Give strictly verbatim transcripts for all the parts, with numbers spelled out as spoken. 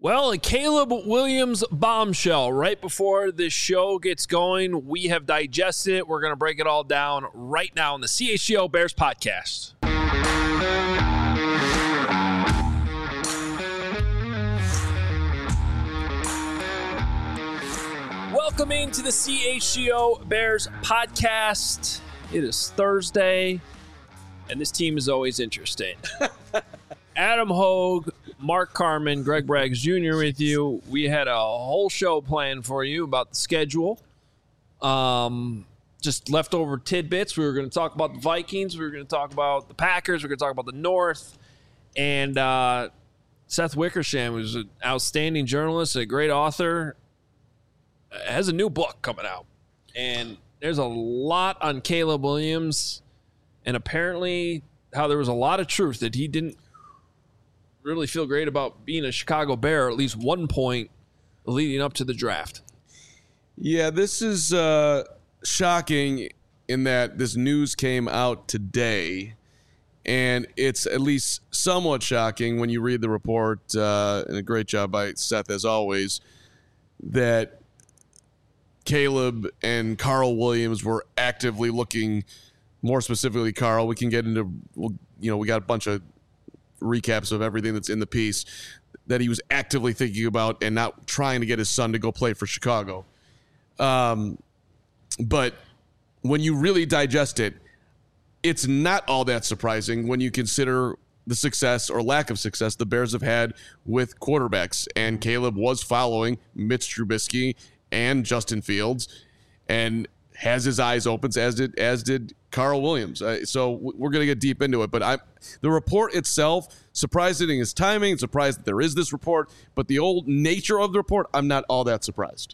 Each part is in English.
Well, a Caleb Williams bombshell right before this show gets going. We have digested it. We're going to break it all down right now on the C H G O Bears podcast. Welcome into the C H G O Bears podcast. It is Thursday, and this team is always interesting. Adam Hogue, Mark Carman, Greg Braggs Junior with you. We had a whole show planned for you about the schedule. Um, just leftover tidbits. We were going to talk about the Vikings. We were going to talk about the Packers. We were going to talk about the North. And uh, Seth Wickersham, who's an outstanding journalist, a great author, has a new book coming out. And there's a lot on Caleb Williams. And apparently how there was a lot of truth that he didn't really feel great about being a Chicago Bear at least one point leading up to the draft. Yeah, this is uh, shocking in that this news came out today, and it's at least somewhat shocking when you read the report, uh, and a great job by Seth as always, that Caleb and Carl Williams were actively looking, more specifically Carl. We can get into, you know, we got a bunch of recaps of everything that's in the piece that he was actively thinking about and not trying to get his son to go play for Chicago. Um, but when you really digest it, it's not all that surprising when you consider the success or lack of success the Bears have had with quarterbacks. And Caleb was following Mitch Trubisky and Justin Fields and has his eyes open, as did as did Carl Williams. Uh, so we're going to get deep into it. But I, the report itself, surprising in its timing, surprised that there is this report. But the old nature of the report, I'm not all that surprised.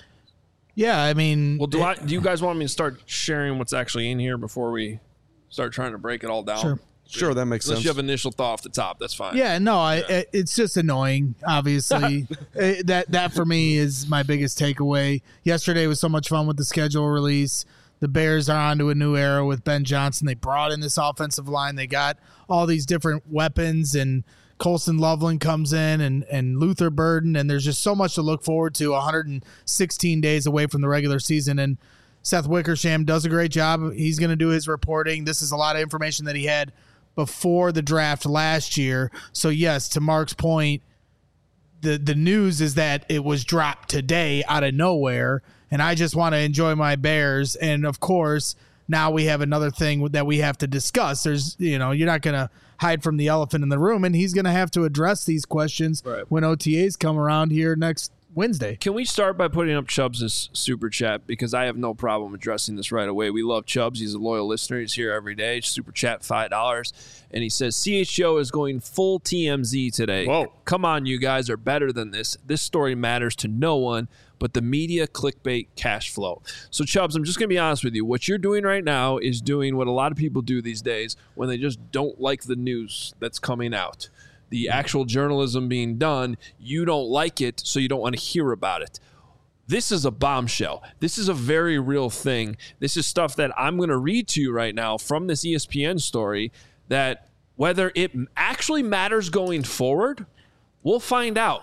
Yeah, I mean... Well, do, I, do you guys want me to start sharing what's actually in here before we start trying to break it all down? Sure. Sure, that makes Unless sense. you have initial thought off the top, that's fine. Yeah, no, I, yeah. it's just annoying, obviously. it, that that for me is my biggest takeaway. Yesterday was so much fun with the schedule release. The Bears are on to a new era with Ben Johnson. They brought in this offensive line. They got all these different weapons, and Colston Loveland comes in, and, and Luther Burden, and there's just so much to look forward to one hundred sixteen days away from the regular season. And Seth Wickersham does a great job. He's going to do his reporting. This is a lot of information that he had before the draft last year. So yes, to Mark's point, the the news is that it was dropped today out of nowhere, and I just want to enjoy my Bears. And of course, now we have another thing that we have to discuss. There's, you know, you're not going to hide from the elephant in the room, and he's going to have to address these questions right when O T As come around here next Wednesday. Can we start by putting up Chubbs' super chat? Because I have no problem addressing this right away. We love Chubbs. He's a loyal listener. He's here every day. Super chat five dollars. And he says, C H G O is going full T M Z today. Whoa. Come on, you guys are better than this. This story matters to no one but the media clickbait cash flow. So, Chubbs, I'm just going to be honest with you. What you're doing right now is doing what a lot of people do these days when they just don't like the news that's coming out. The actual journalism being done, you don't like it, so you don't want to hear about it. This is a bombshell. This is a very real thing. This is stuff that I'm going to read to you right now from this E S P N story that whether it actually matters going forward, we'll find out.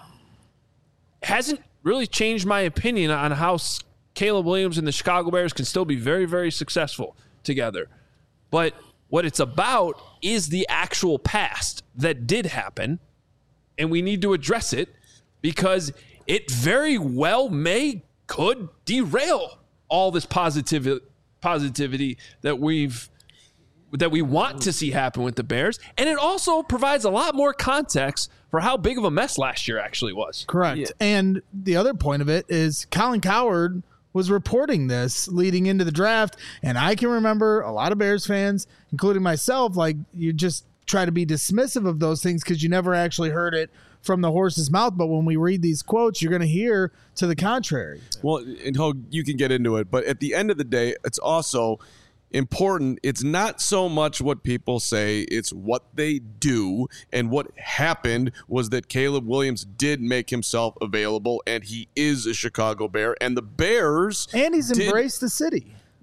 Hasn't really changed my opinion on how Caleb Williams and the Chicago Bears can still be very, very successful together. But what it's about is the actual past that did happen, and we need to address it because it very well may could derail all this positivity positivity that we've that we want to see happen with the Bears, and it also provides a lot more context for how big of a mess last year actually was. Correct. Yeah. And the other point of it is Colin Cowherd was reporting this leading into the draft, and I can remember a lot of Bears fans, including myself, like you just try to be dismissive of those things because you never actually heard it from the horse's mouth. But when we read these quotes, you're going to hear to the contrary. Well, and Hogue, you can get into it, but at the end of the day, it's also important. It's not so much what people say, it's what they do. And what happened was that Caleb Williams did make himself available, and he is a Chicago Bear, and the Bears and he's did, embraced the city.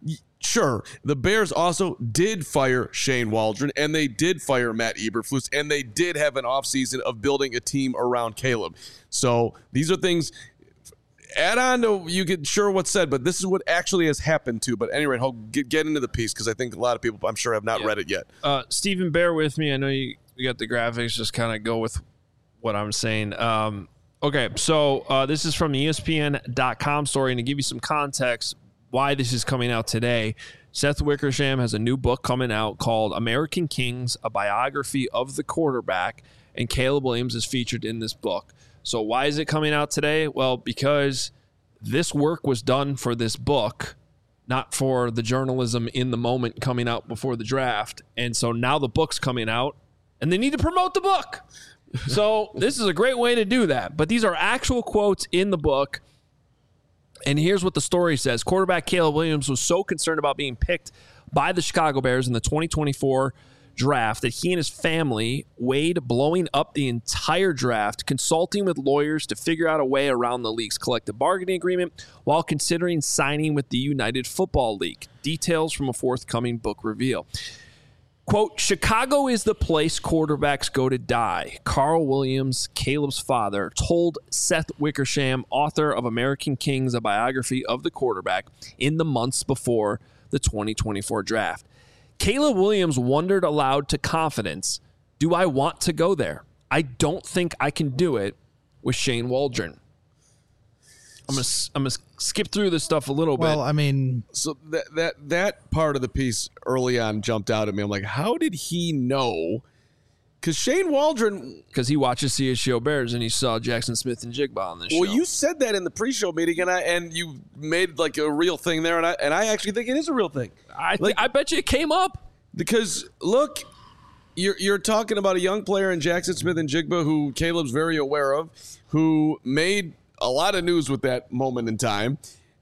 Sure, the Bears also did fire Shane Waldron, and they did fire Matt Eberflus, and they did have an offseason of building a team around Caleb. So these are things, add on to, you get sure what's said, but this is what actually has happened too. But anyway, I'll get, get into the piece because I think a lot of people, I'm sure, have not yeah. read it yet. Uh, Stephen, bear with me. I know you, you got the graphics. Just kind of go with what I'm saying. Um, okay, so uh, this is from the E S P N dot com story, and to give you some context, why this is coming out today. Seth Wickersham has a new book coming out called American Kings, a biography of the quarterback, and Caleb Williams is featured in this book. So why is it coming out today? Well, because this work was done for this book, not for the journalism in the moment coming out before the draft. And so now the book's coming out, and they need to promote the book. So this is a great way to do that. But these are actual quotes in the book. And here's what the story says. Quarterback Caleb Williams was so concerned about being picked by the Chicago Bears in the twenty twenty-four draft that he and his family weighed blowing up the entire draft, consulting with lawyers to figure out a way around the league's collective bargaining agreement while considering signing with the United Football League. Details from a forthcoming book reveal. Quote, Chicago is the place quarterbacks go to die. Carl Williams, Caleb's father, told Seth Wickersham, author of American Kings, a biography of the quarterback, in the months before the twenty twenty-four draft. Caleb Williams wondered aloud to confidence, do I want to go there? I don't think I can do it with Shane Waldron. I'm gonna I'm gonna skip through this stuff a little bit. Well, I mean, so that that that part of the piece early on jumped out at me. I'm like, how did he know? Because Shane Waldron, because he watches C H G O Bears and he saw Jackson Smith and Jigba on this well, show. Well, you said that in the pre-show meeting, and I and you made like a real thing there, and I and I actually think it is a real thing. I th- like, I bet you it came up because look, you're you're talking about a young player in Jackson Smith and Jigba who Caleb's very aware of, who made a lot of news with that moment in time.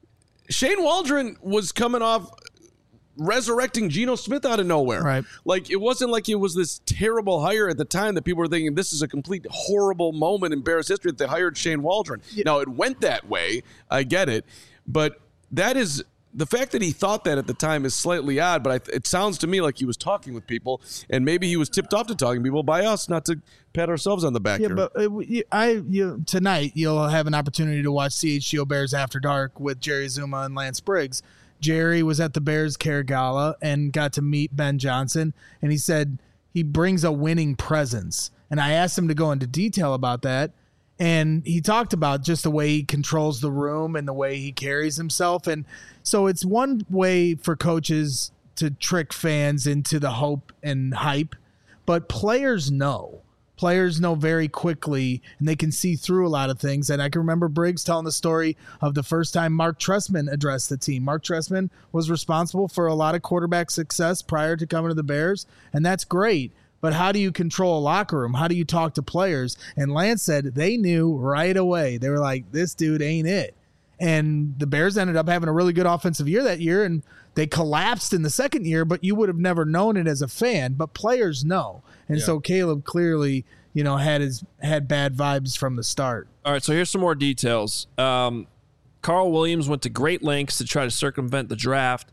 Shane Waldron was coming off resurrecting Geno Smith out of nowhere. Right. Like, it wasn't like it was this terrible hire at the time that people were thinking this is a complete horrible moment in Bears history that they hired Shane Waldron. Yeah. Now, it went that way. I get it. But that is... The fact that he thought that at the time is slightly odd, but I, it sounds to me like he was talking with people, and maybe he was tipped off to talking to people by us, not to pat ourselves on the back. Yeah, here. but uh, I you, tonight you'll have an opportunity to watch C H G O Bears After Dark with Jerry Zuma and Lance Briggs. Jerry was at the Bears Care Gala and got to meet Ben Johnson, and he said he brings a winning presence. And I asked him to go into detail about that. And he talked about just the way he controls the room and the way he carries himself. And so it's one way for coaches to trick fans into the hope and hype, but players know. Players know very quickly, and they can see through a lot of things. And I can remember Briggs telling the story of the first time Mark Trestman addressed the team. Mark Trestman was responsible for a lot of quarterback success prior to coming to the Bears, and that's great. But how do you control a locker room? How do you talk to players? And Lance said they knew right away. They were like, this dude ain't it. And the Bears ended up having a really good offensive year that year, and they collapsed in the second year, but you would have never known it as a fan. But players know. And yeah. So Caleb clearly, you know, had his had bad vibes from the start. All right, so here's some more details. Um, Carl Williams went to great lengths to try to circumvent the draft.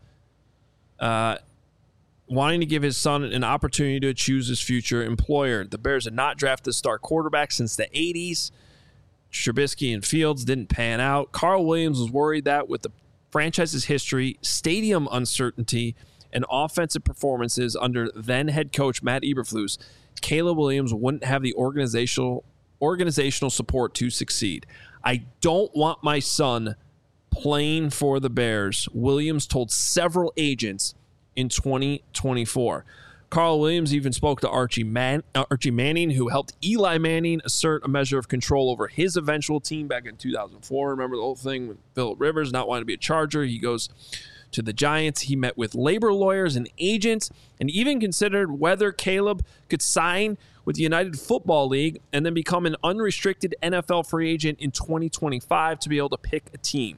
Uh wanting to give his son an opportunity to choose his future employer. The Bears had not drafted a star quarterback since the eighties. Trubisky and Fields didn't pan out. Carl Williams was worried that with the franchise's history, stadium uncertainty, and offensive performances under then head coach Matt Eberflus, Caleb Williams wouldn't have the organizational organizational support to succeed. I don't want my son playing for the Bears, Williams told several agents in twenty twenty-four. Carl Williams even spoke to Archie, Man- uh, Archie Manning, who helped Eli Manning assert a measure of control over his eventual team back in two thousand four. Remember the whole thing with Phillip Rivers not wanting to be a Charger? He goes to the Giants. He met with labor lawyers and agents and even considered whether Caleb could sign with the United Football League and then become an unrestricted N F L free agent in twenty twenty-five to be able to pick a team.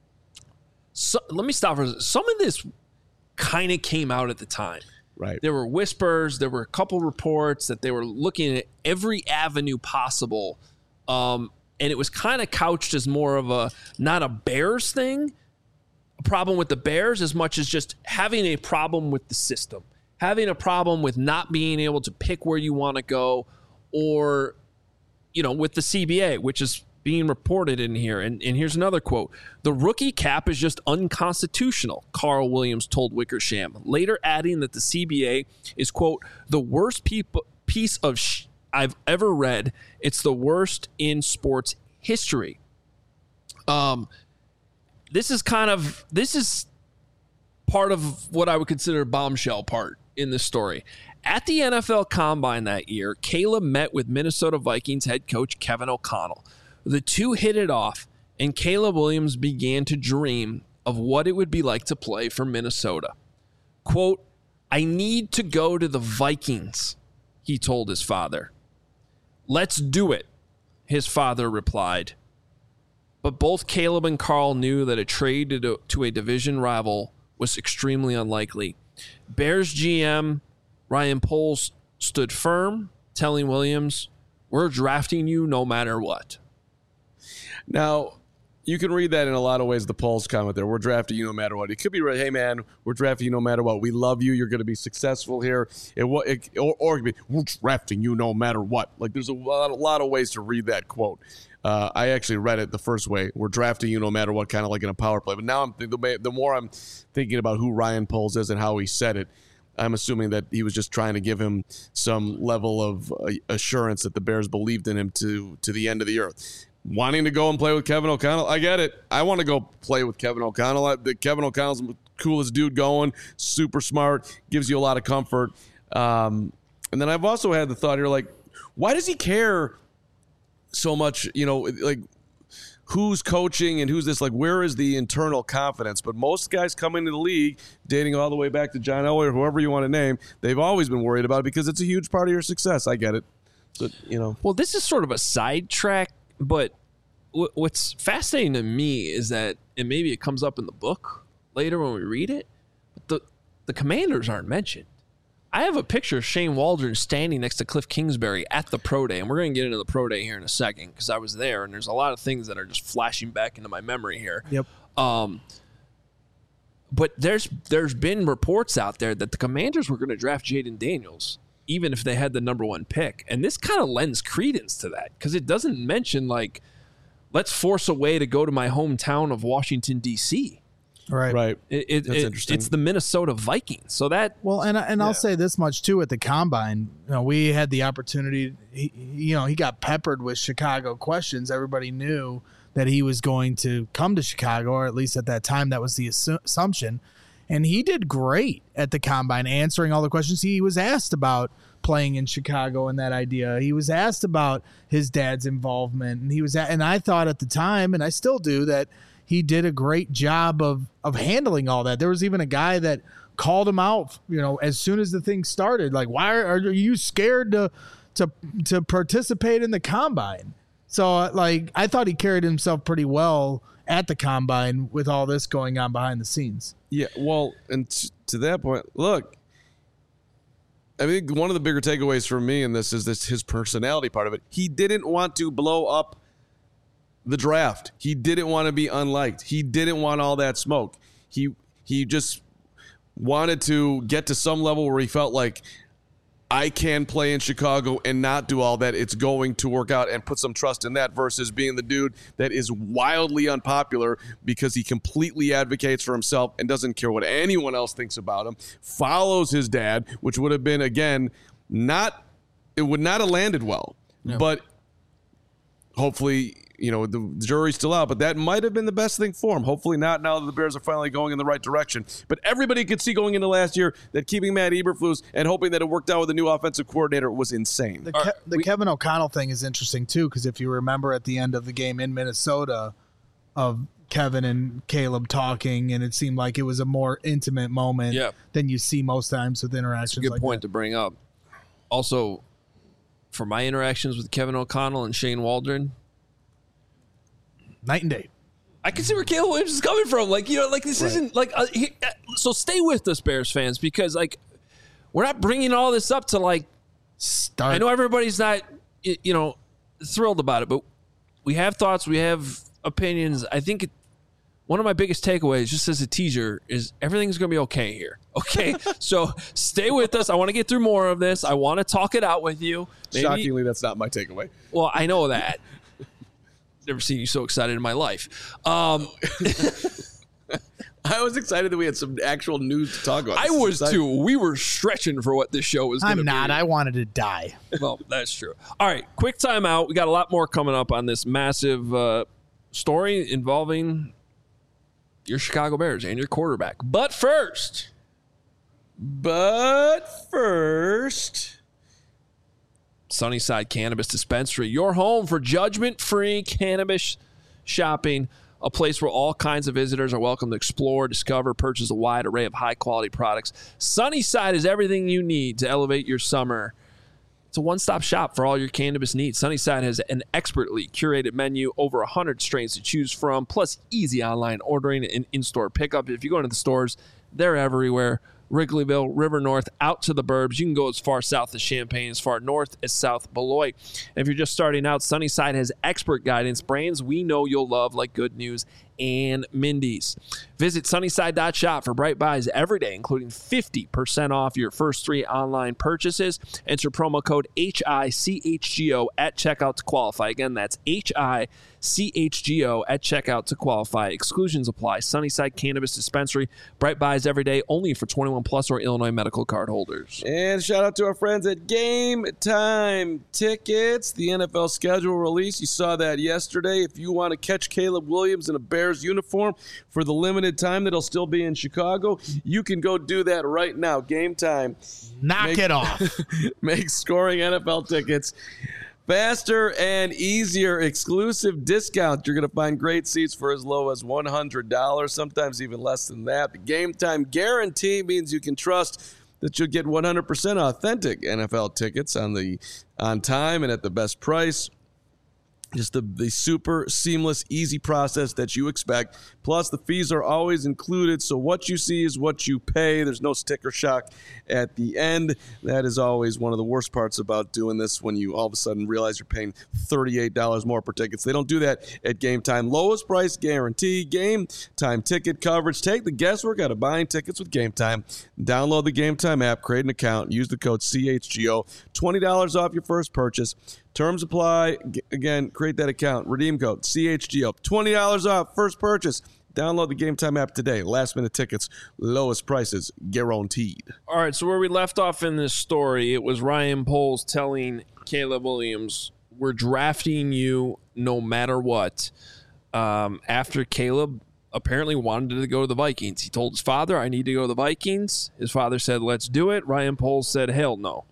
So, let me stop for a second. Some of this kind of came out at the time. Right. There were whispers. There were a couple reports that they were looking at every avenue possible. Um, and it was kind of couched as more of a, not a Bears thing, a problem with the Bears as much as just having a problem with the system, having a problem with not being able to pick where you want to go, or, you know, with the C B A, which is being reported in here. And, and here's another quote. The rookie cap is just unconstitutional, Carl Williams told Wickersham, later adding that the C B A is, quote, the worst peop- piece of sh- I've ever read. It's the worst in sports history. Um, this is kind of, this is part of what I would consider a bombshell part in this story. At the N F L Combine that year, Caleb met with Minnesota Vikings head coach Kevin O'Connell. The two hit it off, and Caleb Williams began to dream of what it would be like to play for Minnesota. Quote, I need to go to the Vikings, he told his father. Let's do it, his father replied. But both Caleb and Carl knew that a trade to, to a division rival was extremely unlikely. Bears G M Ryan Poles stood firm, telling Williams, we're drafting you no matter what. Now, you can read that in a lot of ways, the Poles comment there. We're drafting you no matter what. It could be, hey, man, we're drafting you no matter what. We love you. You're going to be successful here. It, it, or, or it could be, we're drafting you no matter what. Like, there's a lot, a lot of ways to read that quote. Uh, I actually read it the first way. We're drafting you no matter what, kind of like in a power play. But now I'm the, the more I'm thinking about who Ryan Poles is and how he said it, I'm assuming that he was just trying to give him some level of uh, assurance that the Bears believed in him to to the end of the earth. Wanting to go and play with Kevin O'Connell, I get it. I want to go play with Kevin O'Connell. I, the, Kevin O'Connell's the coolest dude going, super smart, gives you a lot of comfort. Um, and then I've also had the thought here, like, why does he care so much, you know, like, who's coaching and who's this? Like, where is the internal confidence? But most guys come into the league, dating all the way back to John Elway or whoever you want to name, they've always been worried about it because it's a huge part of your success. I get it. But, you know. Well, this is sort of a sidetrack, but w- what's fascinating to me is that, and maybe it comes up in the book later when we read it, but the, the Commanders aren't mentioned. I have a picture of Shane Waldron standing next to Cliff Kingsbury at the Pro Day, and we're going to get into the Pro Day here in a second because I was there, and there's a lot of things that are just flashing back into my memory here. Yep. Um, but there's there's been reports out there that the Commanders were going to draft Jaden Daniels, even if they had the number one pick, and this kind of lends credence to that because it doesn't mention, like, let's force a way to go to my hometown of Washington, D C Right. Right. It, it, That's it, interesting. It's the Minnesota Vikings. So that Well, and and Yeah. I'll say this much too: at the combine, you know, we had the opportunity. He, you know, he got peppered with Chicago questions. Everybody knew that he was going to come to Chicago, or at least at that time, that was the assu- assumption. And he did great at the combine, answering all the questions he was asked about playing in Chicago and that idea. He was asked about his dad's involvement, and he was, at, and I thought at the time, and I still do, that he did a great job of of handling all that. There was even a guy that called him out, you know, as soon as the thing started, like, why are, are you scared to to to participate in the combine? So, uh, like, I thought he carried himself pretty well at the combine with all this going on behind the scenes. Yeah, well, and t- to that point, look, I think one of the bigger takeaways for me in this is this his personality part of it. He didn't want to blow up the draft. He didn't want to be unliked. He didn't want all that smoke. He he just wanted to get to some level where he felt like, I can play in Chicago and not do all that. It's going to work out, and put some trust in that versus being the dude that is wildly unpopular because he completely advocates for himself and doesn't care what anyone else thinks about him, follows his dad, which would have been, again, not, it would not have landed well, No. but hopefully, you know, the jury's still out, but that might have been the best thing for him. Hopefully not, now that the Bears are finally going in the right direction. But everybody could see going into last year that keeping Matt Eberflus and hoping that it worked out with a new offensive coordinator was insane. The, All Ke- right, the we- Kevin O'Connell thing is interesting too, because if you remember at the end of the game in Minnesota, of Kevin and Caleb talking, and it seemed like it was a more intimate moment Yeah. than you see most times with interactions. That's a good like point that. to bring up. Also, for my interactions with Kevin O'Connell and Shane Waldron, Night and day. I can see where Caleb Williams is coming from. Like, you know, like this Right. isn't like, uh, he, uh, so stay with us, Bears fans, because like we're not bringing all this up to like, Start. I know everybody's not, y- you know, thrilled about it, but we have thoughts, we have opinions. I think it, one of my biggest takeaways, just as a teaser, is everything's going to be okay here. Okay? So stay with us. I want to get through more of this. I want to talk it out with you. Maybe, Shockingly, that's not my takeaway. Well, I know that. Never seen you so excited in my life. Um, I was excited that we had some actual news to talk about. I This is was exciting. too. We were stretching for what this show was going to be. I'm not. I wanted to die. Well, that's true. All right, quick timeout. We got a lot more coming up on this massive uh, story involving your Chicago Bears and your quarterback. But first, But first, Sunnyside Cannabis Dispensary, your home for judgment-free cannabis shopping, a place where all kinds of visitors are welcome to explore, discover, purchase a wide array of high-quality products. Sunnyside is everything you need to elevate your summer. It's a one-stop shop for all your cannabis needs. Sunnyside has an expertly curated menu, over one hundred strains to choose from, plus easy online ordering and in-store pickup. If you go into the stores, they're everywhere. Wrigleyville, River North, out to the burbs. You can go as far south as Champaign, as far north as South Beloit. And if you're just starting out, Sunnyside has expert guidance, brands we know you'll love, like Good News and Mindy's. Visit sunnyside dot shop for bright buys every day, including fifty percent off your first three online purchases. Enter promo code H I C H G O at checkout to qualify. Again, that's H I C H G O at checkout to qualify. Exclusions apply. Sunnyside Cannabis Dispensary. Bright buys every day, only for twenty-one plus or Illinois medical card holders. and shout out to our friends at Game Time Tickets, the N F L schedule release. You saw that yesterday. If you want to catch Caleb Williams in a Bears uniform for the limited time that he'll still be in Chicago, you can go do that right now. Game Time. Knock Make- it off. Make scoring N F L tickets faster and easier. Exclusive discount. You're going to find great seats for as low as one hundred dollars, sometimes even less than that. The Game Time guarantee means you can trust that you'll get one hundred percent authentic N F L tickets on the on time and at the best price. Just the, the super seamless, easy process that you expect. Plus, the fees are always included, so what you see is what you pay. There's no sticker shock at the end. That is always one of the worst parts about doing this, when you all of a sudden realize you're paying thirty-eight dollars more per tickets. They don't do that at Game Time. Lowest price guarantee, Game Time ticket coverage. Take the guesswork out of buying tickets with Game Time. Download the Game Time app, create an account, use the code C H G O. twenty dollars off your first purchase. Terms apply. Again, create that account. Redeem code C H G O. twenty dollars off first purchase. Download the Game Time app today. Last minute tickets, lowest prices guaranteed. All right, so where we left off in this story, it was Ryan Poles telling Caleb Williams, we're drafting you no matter what. Um, after Caleb apparently wanted to go to the Vikings. He told his father, I need to go to the Vikings. His father said, let's do it. Ryan Poles said, hell no.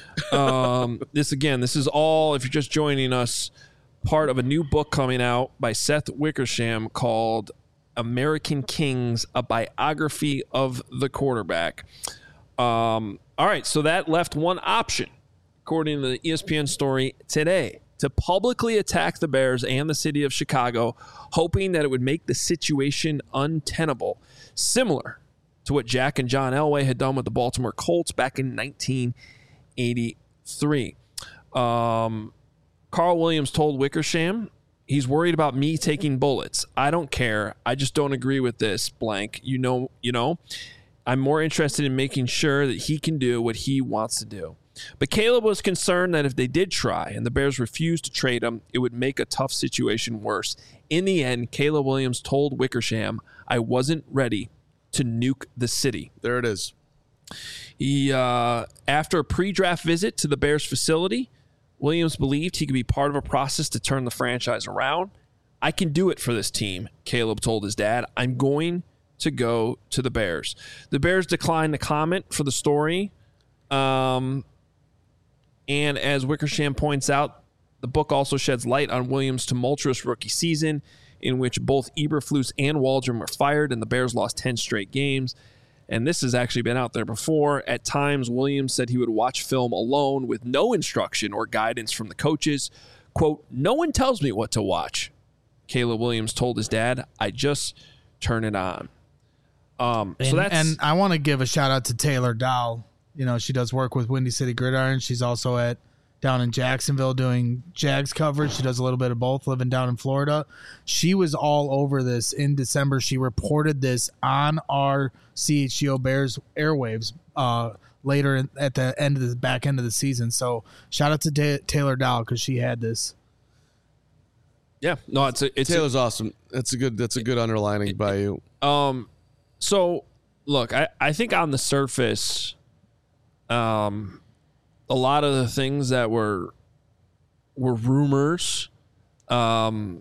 um, this again, this is all, if you're just joining us, part of a new book coming out by Seth Wickersham called American Kings, a biography of the quarterback. Um, all right, so that left one option, according to the E S P N story today, to publicly attack the Bears and the city of Chicago, hoping that it would make the situation untenable, similar to what Jack and John Elway had done with the Baltimore Colts back in nineteen eighty-three. Um, Carl Williams told Wickersham, he's worried about me taking bullets. I don't care. I just don't agree with this, blank. You know, you know, I'm more interested in making sure that he can do what he wants to do. But Caleb was concerned that if they did try and the Bears refused to trade him, it would make a tough situation worse. In the end, Caleb Williams told Wickersham, I wasn't ready to nuke the city. There it is. He, uh, after a pre-draft visit to the Bears facility, Williams believed he could be part of a process to turn the franchise around. I can do it for this team, Caleb told his dad. I'm going to go to the Bears. The Bears declined to comment for the story. Um, and as Wickersham points out, the book also sheds light on Williams' tumultuous rookie season, in which both Eberflus and Waldron were fired and the Bears lost ten straight games. And this has actually been out there before. At times, Williams said he would watch film alone with no instruction or guidance from the coaches. Quote, no one tells me what to watch, Caleb Williams told his dad. I just turn it on. Um, And, so that's, and I want to give a shout out to Taylor Dow. You know, she does work with Windy City Gridiron. She's also at down in Jacksonville doing Jags coverage. She does a little bit of both, living down in Florida. She was all over this in December. She reported this on our C H G O Bears airwaves uh, later in, at the end of the back end of the season. So shout out to Ta- Taylor Dow because she had this. Yeah, no, it's a, it's Taylor's a, awesome. That's a good. That's a good underlining it, by you. Um, so look, I, I think on the surface, um, a lot of the things that were were rumors, um,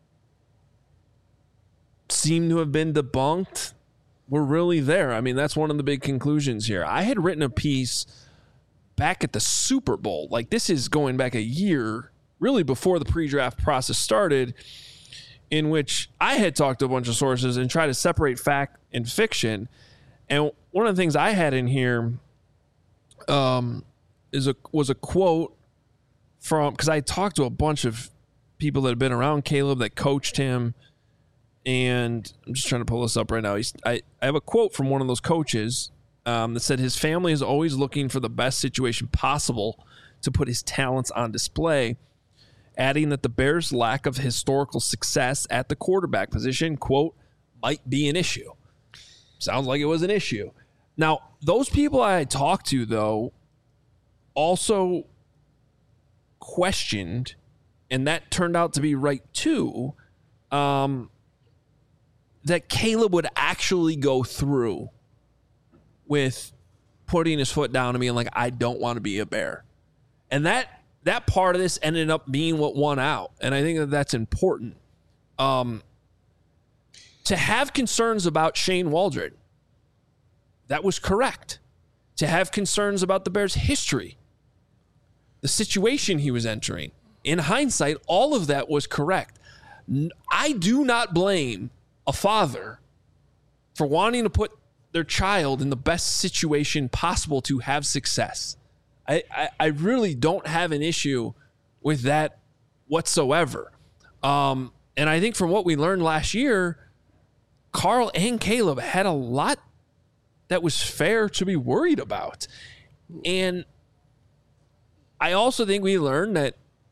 seem to have been debunked. Were really there. I mean, that's one of the big conclusions here. I had written a piece back at the Super Bowl. Like this is going back a year. Really before the pre-draft process started, in which I had talked to a bunch of sources and tried to separate fact and fiction. And one of the things I had in here um, is a was a quote from, because I talked to a bunch of people that had been around Caleb that coached him. And I'm just trying to pull this up right now. He's, I, I have a quote from one of those coaches um, that said his family is always looking for the best situation possible to put his talents on display, adding that the Bears' lack of historical success at the quarterback position, quote, might be an issue. Sounds like it was an issue. Now, those people I talked to, though, also questioned, and that turned out to be right, too, um, that Caleb would actually go through with putting his foot down and being like, I don't want to be a Bear. And that That part of this ended up being what won out. And I think that that's important. Um, to have concerns about Shane Waldron, that was correct. To have concerns about the Bears' history, the situation he was entering, in hindsight, all of that was correct. I do not blame a father for wanting to put their child in the best situation possible to have success. I, I, I really don't have an issue with that whatsoever. Um, and I think from what we learned last year, Carl and Caleb had a lot that was fair to be worried about. And I also think we learned that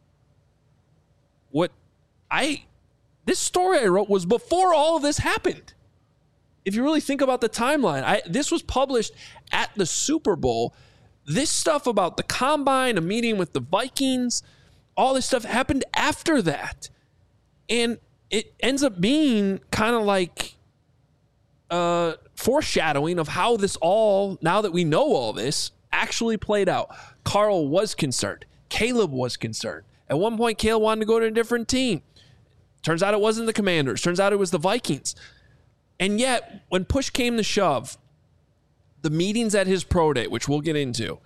what I, this story I wrote was before all of this happened. If you really think about the timeline, I, this was published at the Super Bowl. This stuff about the combine, a meeting with the Vikings, all this stuff happened after that. And it ends up being kind of like uh, foreshadowing of how this all, now that we know all this, actually played out. Carl was concerned. Caleb was concerned. At one point, Caleb wanted to go to a different team. Turns out it wasn't the Commanders. Turns out it was the Vikings. And yet, when push came to shove, the meetings at his pro day, which we'll get into,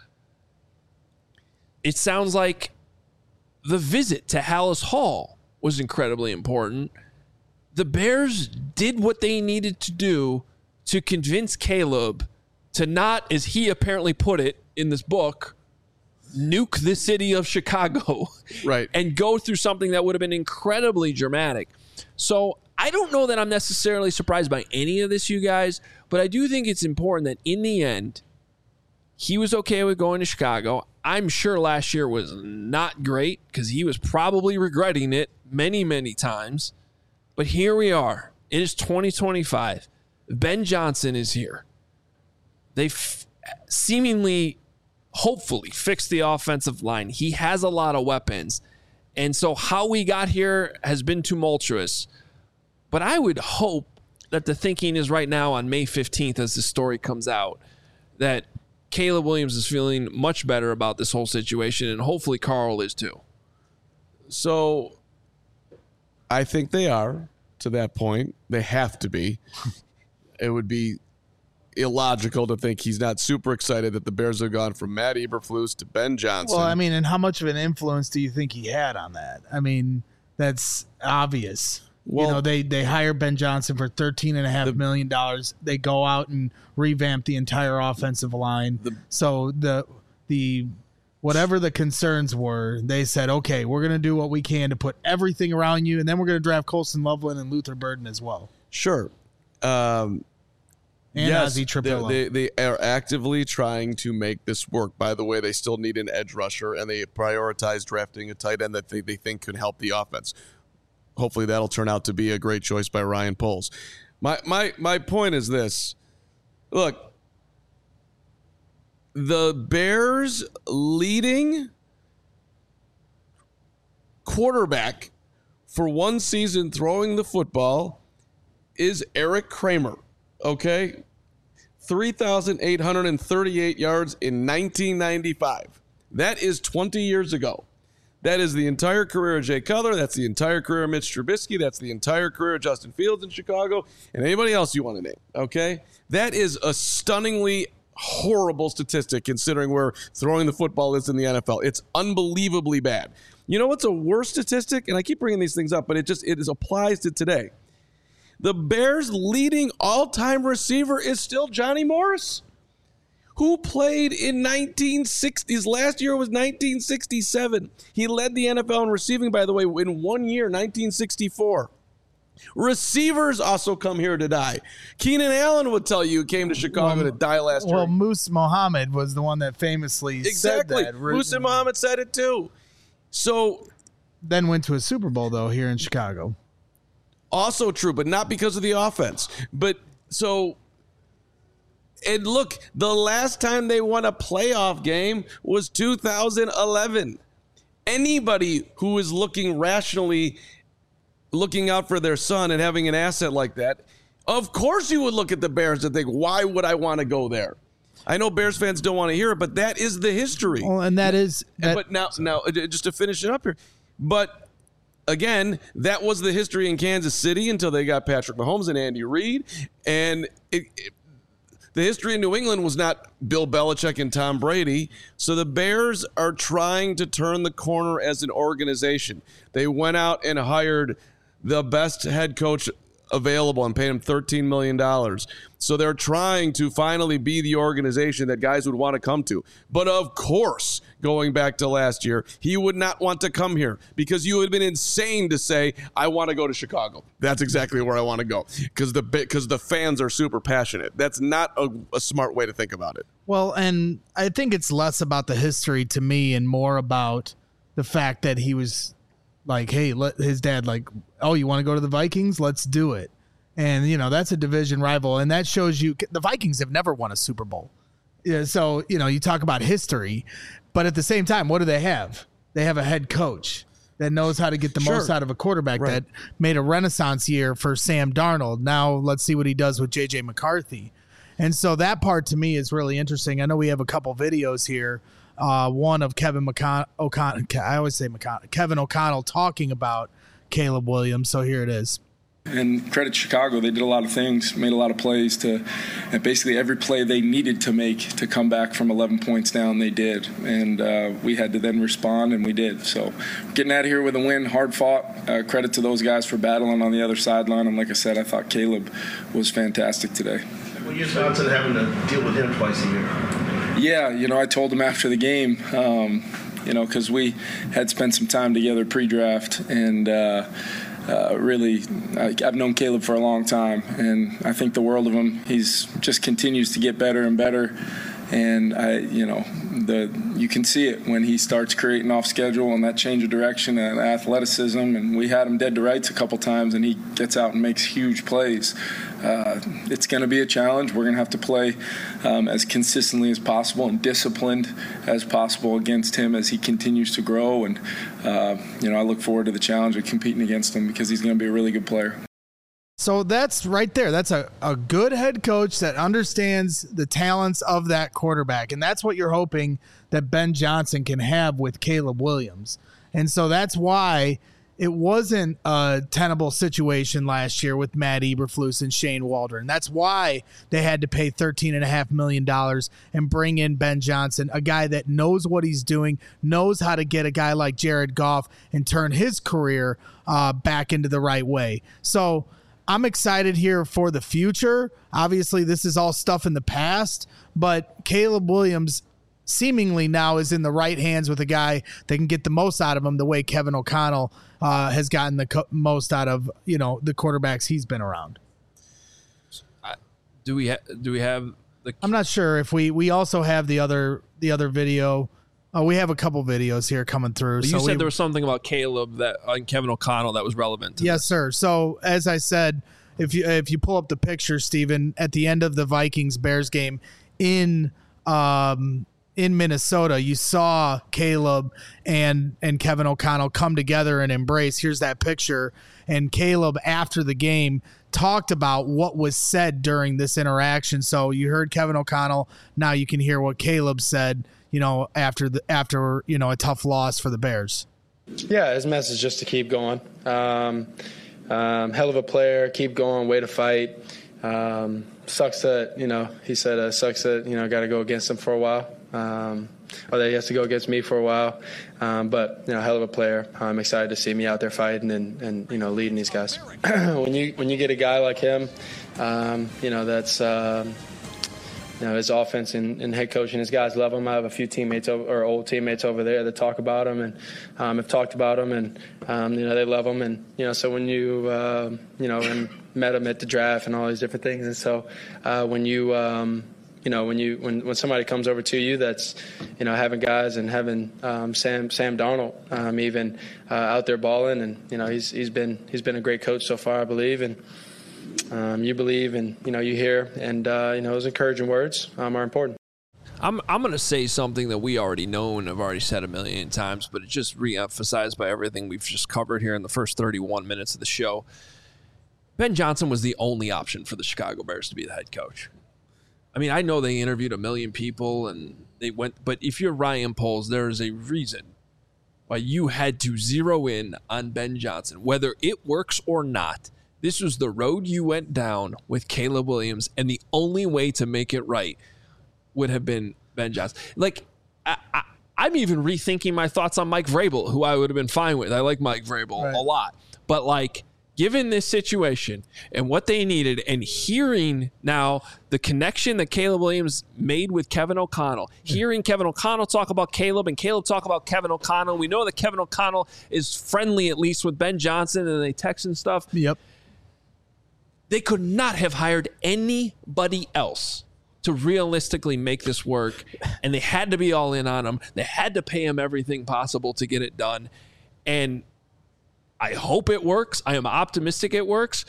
it sounds like the visit to Hallis Hall was incredibly important. The Bears did what they needed to do to convince Caleb to not, as he apparently put it in this book, nuke the city of Chicago, right, and go through something that would have been incredibly dramatic. So I don't know that I'm necessarily surprised by any of this, you guys, but I do think it's important that in the end, he was okay with going to Chicago. I'm sure last year was not great because he was probably regretting it many, many times. But here we are. It is twenty twenty-five. Ben Johnson is here. They've seemingly, hopefully, fixed the offensive line. He has a lot of weapons. And so how we got here has been tumultuous. But I would hope that the thinking is right now on May fifteenth as the story comes out, that Caleb Williams is feeling much better about this whole situation, and hopefully Carl is too. So I think they are to that point. They have to be. It would be illogical to think he's not super excited that the Bears have gone from Matt Eberflus to Ben Johnson. Well, I mean, and how much of an influence do you think he had on that? I mean, that's obvious. Well, you know, they, they hire Ben Johnson for thirteen and a half million dollars. They go out and revamp the entire offensive line. The, so the the whatever the concerns were, they said, okay, we're going to do what we can to put everything around you, and then we're going to draft Colson Loveland and Luther Burden as well. Sure. Um, And yes, Ozzie Trapillo. They, they they are actively trying to make this work. By the way, they still need an edge rusher, and they prioritize drafting a tight end that they, they think could help the offense. Hopefully that'll turn out to be a great choice by Ryan Poles. My my my point is this. Look, the Bears' leading quarterback for one season throwing the football is Eric Kramer, okay? three thousand eight hundred thirty-eight yards in nineteen ninety-five. That is twenty years ago. That is the entire career of Jay Cutler. That's the entire career of Mitch Trubisky. That's the entire career of Justin Fields in Chicago and anybody else you want to name, okay? That is a stunningly horrible statistic considering where throwing the football is in the N F L. It's unbelievably bad. You know what's a worse statistic? And I keep bringing these things up, but it just it is applies to today. The Bears' leading all-time receiver is still Johnny Morris, who played in nineteen sixties. Last year was nineteen sixty-seven. He led the N F L in receiving, by the way, in one year, nineteen sixty-four. Receivers also come here to die. Keenan Allen would tell you came to Chicago well, to die last well, year. Well, Moose Muhammad was the one that famously exactly. said that. Moose Muhammad said it too. So then went to a Super Bowl, though, here in Chicago. Also true, but not because of the offense. But so, and look, the last time they won a playoff game was two thousand eleven. Anybody who is looking rationally, looking out for their son and having an asset like that, of course you would look at the Bears and think, why would I want to go there? I know Bears fans don't want to hear it, but that is the history. Well, and that is. That- but now, now, just to finish it up here, but. Again, that was the history in Kansas City until they got Patrick Mahomes and Andy Reid. And it, it, the history in New England was not Bill Belichick and Tom Brady. So the Bears are trying to turn the corner as an organization. They went out and hired the best head coach available and paid him thirteen million dollars. So they're trying to finally be the organization that guys would want to come to. But of course, going back to last year, he would not want to come here because you would have been insane to say, I want to go to Chicago. That's exactly where I want to go because the because the fans are super passionate. That's not a, a smart way to think about it. Well, and I think it's less about the history to me and more about the fact that he was like, hey, let his dad like, oh, you want to go to the Vikings? Let's do it. And, you know, that's a division rival. And that shows you the Vikings have never won a Super Bowl. Yeah, so, you know, you talk about history, but at the same time, what do they have? They have a head coach that knows how to get the sure. most out of a quarterback right. that made a renaissance year for Sam Darnold. Now let's see what he does with J J McCarthy. And so that part to me is really interesting. I know we have a couple videos here. Uh, one of Kevin McCon- O'Connell, I always say McCon- Kevin O'Connell talking about Caleb Williams. So here it is. And credit Chicago, they did a lot of things, made a lot of plays to, and basically every play they needed to make to come back from eleven points down, they did. And uh, we had to then respond, and we did. So getting out of here with a win, hard fought. Uh, credit to those guys for battling on the other sideline. And like I said, I thought Caleb was fantastic today. What are your thoughts on having to deal with him twice a year? Yeah, you know, I told him after the game, um, you know, because we had spent some time together pre-draft, and uh, uh, really, I, I've known Caleb for a long time, and I think the world of him. He's just continues to get better and better, and I, you know, the you can see it when he starts creating off schedule and that change of direction and athleticism. And we had him dead to rights a couple times, and he gets out and makes huge plays. Uh, it's going to be a challenge. We're going to have to play um, as consistently as possible and disciplined as possible against him as he continues to grow. And, uh, you know, I look forward to the challenge of competing against him because he's going to be a really good player. So that's right there. That's a, a good head coach that understands the talents of that quarterback. And that's what you're hoping that Ben Johnson can have with Caleb Williams. And so that's why it wasn't a tenable situation last year with Matt Eberflus and Shane Waldron. That's why they had to pay thirteen point five million dollars and bring in Ben Johnson, a guy that knows what he's doing, knows how to get a guy like Jared Goff and turn his career uh, back into the right way. So I'm excited here for the future. Obviously, this is all stuff in the past, but Caleb Williams seemingly now is in the right hands with a guy that can get the most out of him the way Kevin O'Connell uh, has gotten the co- most out of, you know, the quarterbacks he's been around. I, do we ha- do we have the? I'm not sure if we we also have the other the other video. Oh, we have a couple videos here coming through. You so said we, there was something about Caleb that and Kevin O'Connell that was relevant. To yes, this. sir. So as I said, if you if you pull up the picture, Steven, at the end of the Vikings Bears game in um in Minnesota, you saw Caleb and and Kevin O'Connell come together and embrace. Here's that picture. And Caleb, after the game, talked about what was said during this interaction. So you heard Kevin O'Connell. Now you can hear what Caleb said, you know, after the after, you know, a tough loss for the Bears. Yeah, his message is just to keep going. Um, um, hell of a player, keep going, way to fight. Um, sucks that, you know, he said uh, sucks that, you know, got to go against him for a while. Um, or that he has to go against me for a while. Um, but, you know, hell of a player. I'm excited to see me out there fighting and, and you know, leading these guys. when you when you get a guy like him, um, you know, that's, um, you know, his offense and, and head coach and his guys love him. I have a few teammates over, or old teammates over there that talk about him and um, have talked about him, and, um, you know, they love him. And, you know, so when you, uh, you know, and met him at the draft and all these different things. And so uh, when you, um, you know, when you when, when somebody comes over to you that's, you know, having guys and having um, Sam Sam Darnold um, even uh, out there balling, and you know he's he's been he's been a great coach so far, I believe, and um, you believe and you know you hear, and uh, you know those encouraging words um, are important. I'm I'm going to say something that we already know and have already said a million times, but it's just re-emphasized by everything we've just covered here in the first thirty-one minutes of the show. Ben Johnson was the only option for the Chicago Bears to be the head coach. I mean, I know they interviewed a million people and they went, but if you're Ryan Poles, there is a reason why you had to zero in on Ben Johnson. Whether it works or not, this was the road you went down with Caleb Williams, and the only way to make it right would have been Ben Johnson. Like, I, I, I'm even rethinking my thoughts on Mike Vrabel, who I would have been fine with. I like Mike Vrabel right. a lot. But, like, given this situation and what they needed, and hearing now the connection that Caleb Williams made with Kevin O'Connell, hearing Kevin O'Connell talk about Caleb and Caleb talk about Kevin O'Connell, we know that Kevin O'Connell is friendly at least with Ben Johnson, and they text and stuff. Yep. They could not have hired anybody else to realistically make this work, and they had to be all in on him. They had to pay him everything possible to get it done, and I hope it works. I am optimistic it works.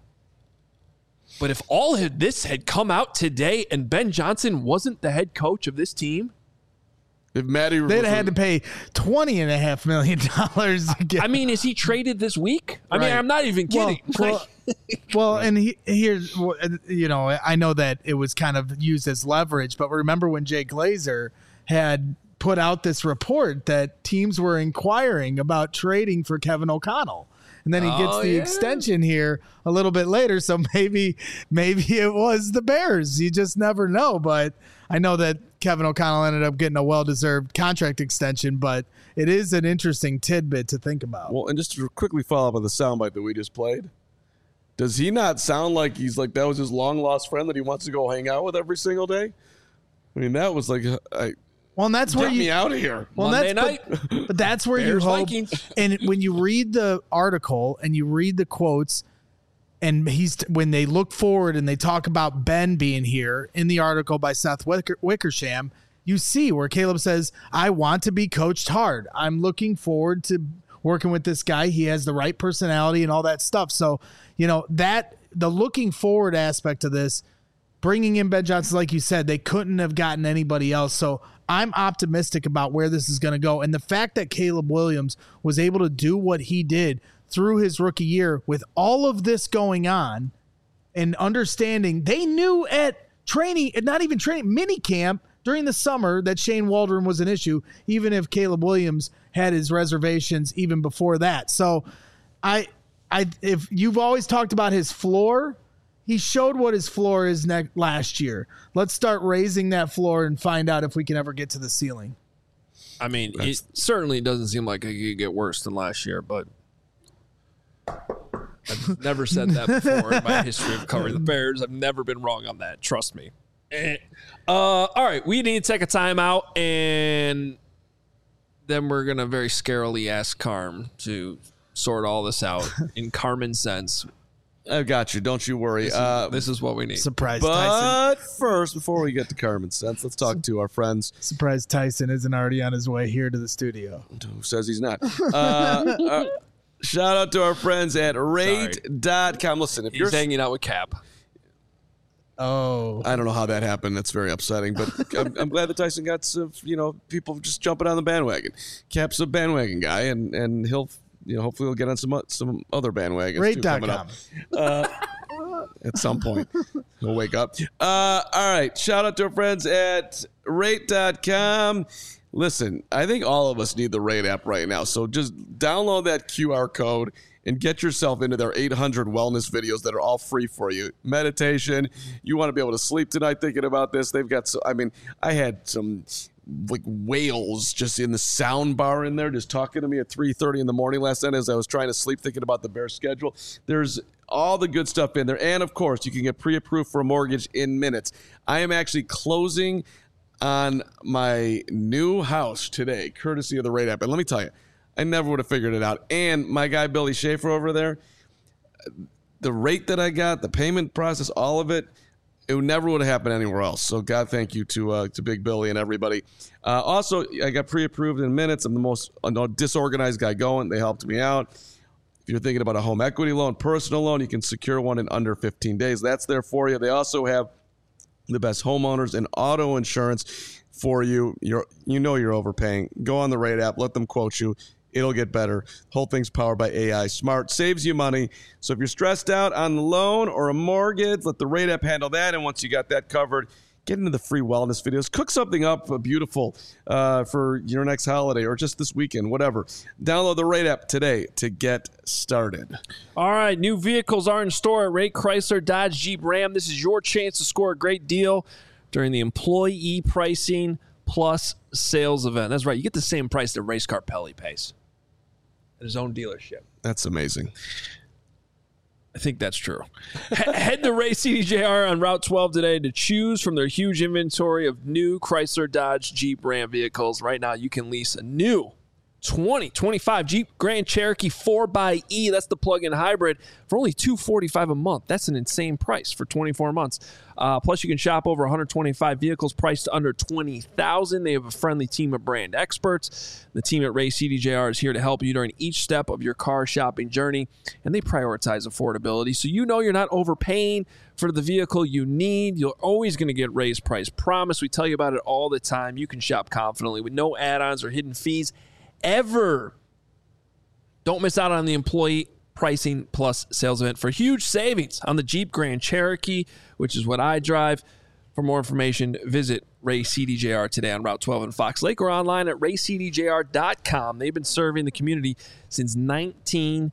But if all of this had come out today and Ben Johnson wasn't the head coach of this team, if Matty they'd have had to pay twenty and a half million dollars. I mean, is he traded this week? I right. mean, I'm not even kidding. Well, well, well and he, here's, you know, I know that it was kind of used as leverage, but remember when Jay Glazer had put out this report that teams were inquiring about trading for Kevin O'Connell. And then he gets oh, the yeah. extension here a little bit later. So maybe, maybe it was the Bears. You just never know. But I know that Kevin O'Connell ended up getting a well-deserved contract extension, but it is an interesting tidbit to think about. Well, and just to quickly follow up on the soundbite that we just played, does he not sound like he's like that was his long-lost friend that he wants to go hang out with every single day? I mean, that was like, I, well, and that's get where you, me out of here. Well, Monday that's, night. But, but that's where Bears, you hope. Vikings. And when you read the article and you read the quotes, and he's when they look forward and they talk about Ben being here in the article by Seth Wicker, Wickersham, you see where Caleb says, I want to be coached hard. I'm looking forward to working with this guy. He has the right personality and all that stuff. So, you know, that the looking forward aspect of this, bringing in Ben Johnson, like you said, they couldn't have gotten anybody else. So I'm optimistic about where this is going to go. And the fact that Caleb Williams was able to do what he did through his rookie year with all of this going on and understanding, they knew at training, not even training, mini camp during the summer that Shane Waldron was an issue, even if Caleb Williams had his reservations even before that. So I, I, if you've always talked about his floor, he showed what his floor is ne- last year. Let's start raising that floor and find out if we can ever get to the ceiling. I mean, That's, it certainly doesn't seem like it could get worse than last year, but I've never said that before in my history of covering the Bears. I've never been wrong on that. Trust me. Uh, all right, we need to take a timeout, and then we're going to very scarily ask Carm to sort all this out in Carmen sense. I got you. Don't you worry. This is, uh, this is what we need. Surprise Tyson. but first, before we get to Carmen Sense, let's talk to our friends. Surprise Tyson isn't already on his way here to the studio. Who says he's not? Uh, uh, shout out to our friends at rate dot com. Listen, if He's you're hanging out with Cap. Oh. I don't know how that happened. That's very upsetting. But I'm, I'm glad that Tyson got some, you know, people just jumping on the bandwagon. Cap's a bandwagon guy, and, and he'll, you know, hopefully he'll get on some some other bandwagons rate too dot coming com. up. Uh, at some point, he'll wake up. Uh, all right. Shout out to our friends at rate dot com. Listen, I think all of us need the Rate app right now. So just download that Q R code and get yourself into their eight hundred wellness videos that are all free for you. Meditation. You want to be able to sleep tonight thinking about this. They've got, so, I mean, I had some like whales just in the sound bar in there just talking to me at three thirty in the morning last night as I was trying to sleep thinking about the Bears schedule. There's all the good stuff in there. And, of course, you can get pre-approved for a mortgage in minutes. I am actually closing on my new house today, courtesy of the Rate app. And let me tell you, I never would have figured it out. And my guy, Billy Schaefer over there, the rate that I got, the payment process, all of it, it never would have happened anywhere else. So God, thank you to uh, to Big Billy and everybody. Uh, also, I got pre-approved in minutes. I'm the most uh, disorganized guy going. They helped me out. If you're thinking about a home equity loan, personal loan, you can secure one in under fifteen days. That's there for you. They also have the best homeowners and auto insurance for you. You're, you know you're overpaying. Go on the Rate app. Let them quote you. It'll get better. Whole thing's powered by A I. Smart. Saves you money. So if you're stressed out on the loan or a mortgage, let the Rate app handle that. And once you got that covered, get into the free wellness videos. Cook something up uh, beautiful uh, for your next holiday or just this weekend, whatever. Download the Rate app today to get started. All right, new vehicles are in store at Rate Chrysler, Dodge, Jeep, Ram. This is your chance to score a great deal during the employee pricing plus sales event. That's right. You get the same price that Race Car Pelly pays at his own dealership. That's amazing. I think that's true. Head to Ray C D J R on Route twelve today to choose from their huge inventory of new Chrysler, Dodge, Jeep, Ram vehicles. Right now, you can lease a new twenty twenty-five Jeep Grand Cherokee four by E. That's the plug-in hybrid for only two hundred forty-five dollars a month. That's an insane price for twenty-four months. Uh, plus, you can shop over one hundred twenty-five vehicles priced under twenty thousand dollars. They have a friendly team of brand experts. The team at Ray C D J R is here to help you during each step of your car shopping journey, and they prioritize affordability. So you know you're not overpaying for the vehicle you need. You're always going to get Ray's price promise. We tell you about it all the time. You can shop confidently with no add-ons or hidden fees ever. Don't miss out on the employee pricing plus sales event for huge savings on the Jeep Grand Cherokee, which is what I drive. For more information, visit Ray C D J R today on Route twelve in Fox Lake or online at ray c d j r dot com. They've been serving the community since nineteen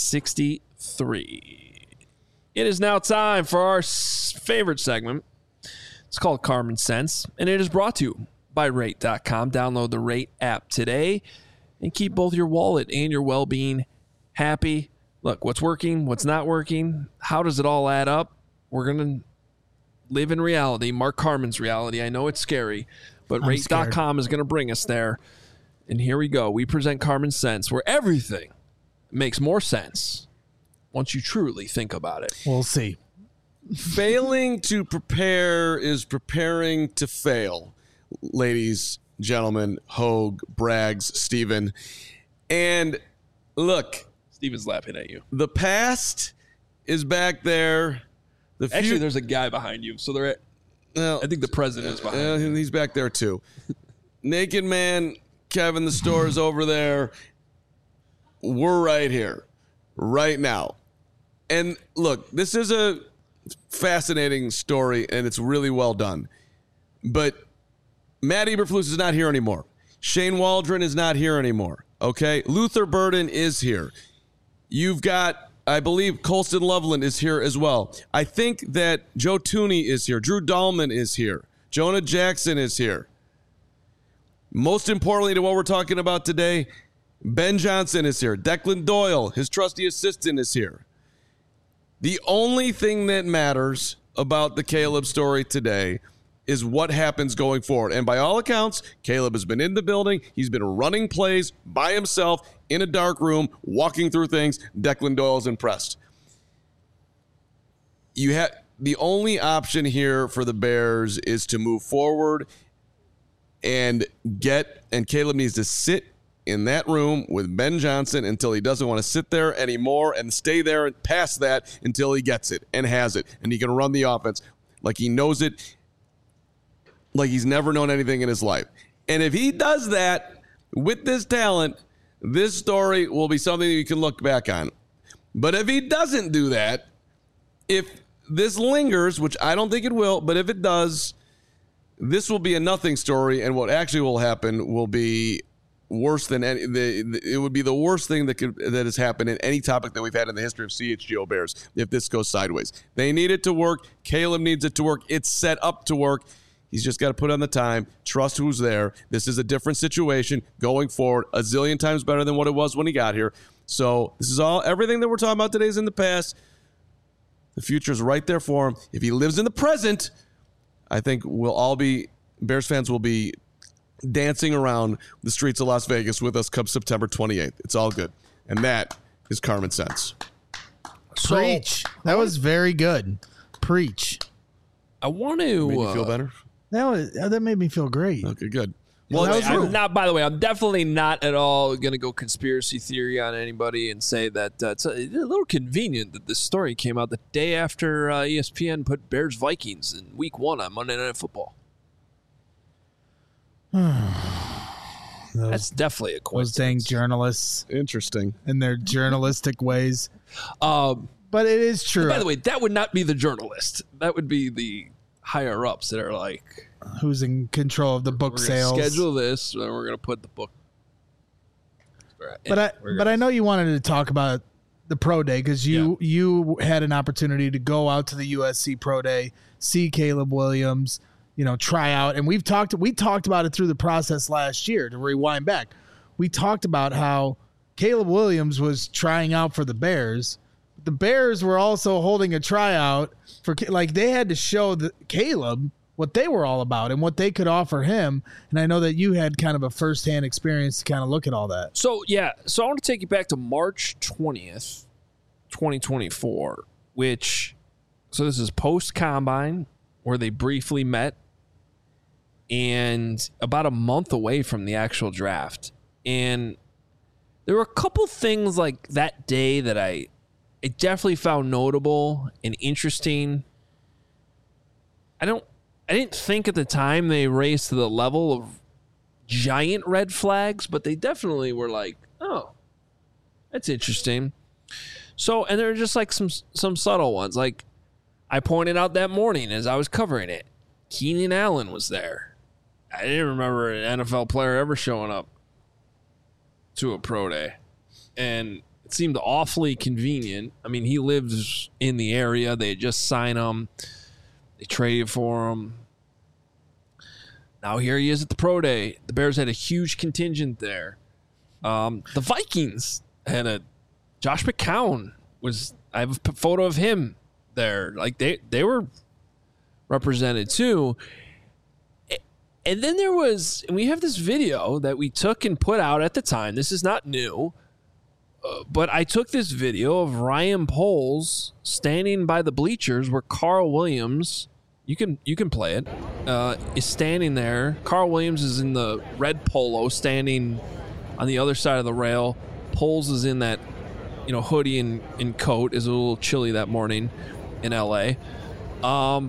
sixty-three. It is now time for our favorite segment. It's called Carmen Sense, and it is brought to you by rate dot com. Download the Rate app today and keep both your wallet and your well-being happy. Look, what's working, what's not working, how does it all add up? We're going to live in reality, Mark Carmen's reality. I know it's scary, but rate dot com is going to bring us there. And here we go. We present Carmen Sense, where everything makes more sense once you truly think about it. We'll see. Failing to prepare is preparing to fail, ladies, gentlemen, Hogue, Braggs, Steven. And look, Steven's laughing at you. The past is back there. The Actually, few- there's a guy behind you. So they're at, well, I think the president is behind uh, you. He's back there too. Naked Man, Kevin, the store is over there. We're right here, right now. And look, this is a fascinating story, and it's really well done. But Matt Eberflus is not here anymore. Shane Waldron is not here anymore. Okay? Luther Burden is here. You've got, I believe, Colston Loveland is here as well. I think that Joe Tooney is here. Drew Dahlman is here. Jonah Jackson is here. Most importantly to what we're talking about today, Ben Johnson is here. Declan Doyle, his trusty assistant, is here. The only thing that matters about the Caleb story today is what happens going forward. And by all accounts, Caleb has been in the building. He's been running plays by himself in a dark room, walking through things. Declan Doyle's impressed. you have the only option here for the Bears is to move forward and get, and Caleb needs to sit in that room with Ben Johnson until he doesn't want to sit there anymore and stay there and past that until he gets it and has it. And he can run the offense like he knows it, like he's never known anything in his life. And if he does that with this talent, this story will be something that you can look back on. But if he doesn't do that, if this lingers, which I don't think it will, but if it does, this will be a nothing story. And what actually will happen will be worse than any, the, it would be the worst thing that could that has happened in any topic that we've had in the history of C H G O Bears if this goes sideways. They need it to work. Caleb needs it to work. It's set up to work. He's just got to put on the time, trust who's there. This is a different situation going forward, a zillion times better than what it was when he got here. So this is all, everything that we're talking about today is in the past. The future's right there for him. If he lives in the present, I think we'll all be, Bears fans will be dancing around the streets of Las Vegas with us come September twenty-eighth. It's all good. And that is Carmen Sense. So, Preach. That was very good. Preach. I want to Made you feel uh, better? That was that made me feel great. Okay, good. Well, That was I'm rude. not. By the way, I'm definitely not at all going to go conspiracy theory on anybody and say that uh, it's a, a little convenient that this story came out the day after uh, E S P N put Bears Vikings in Week One on Monday Night Football. That's definitely a Those dang coincidence. journalists Interesting. in their journalistic ways. Um, But it is true. by the way, that would not be the journalist. That would be the higher ups that are like, Who's in control of the book we're going to sales? schedule this, and we're going to put the book. But I We're but gonna- I know you wanted to talk about the pro day because you you had an opportunity to go out to the U S C pro day, see Caleb Williams, you know, try out, and we've talked we talked about it through the process last year. To rewind back, we talked about how Caleb Williams was trying out for the Bears. The Bears were also holding a tryout for, like, they had to show the Caleb what they were all about and what they could offer him. And I know that you had kind of a firsthand experience to kind of look at all that. So, yeah. So, I want to take you back to March twentieth, twenty twenty-four, which, so this is post-combine where they briefly met and about a month away from the actual draft. And there were a couple things like that day that I, I definitely found notable and interesting. I don't, I didn't think at the time they raised to the level of giant red flags, but they definitely were like, oh, that's interesting. So, and there were just like some some subtle ones. Like I pointed out that morning as I was covering it, Keenan Allen was there. I didn't remember an N F L player ever showing up to a pro day. And it seemed awfully convenient. I mean, he lives in the area. They had just signed him. They traded for him. Now here he is at the pro day. The Bears had a huge contingent there. Um, the Vikings had a Josh McCown was. I have a p- photo of him there. Like they they were represented too. And then there was, and we have this video that we took and put out at the time. This is not new. Uh, but I took this video of Ryan Poles standing by the bleachers where Carl Williams, you can you can play it, uh, is standing there. Carl Williams is in the red polo standing on the other side of the rail. Poles is in that, you know, hoodie and, and coat. Is a little chilly that morning in L A. Um,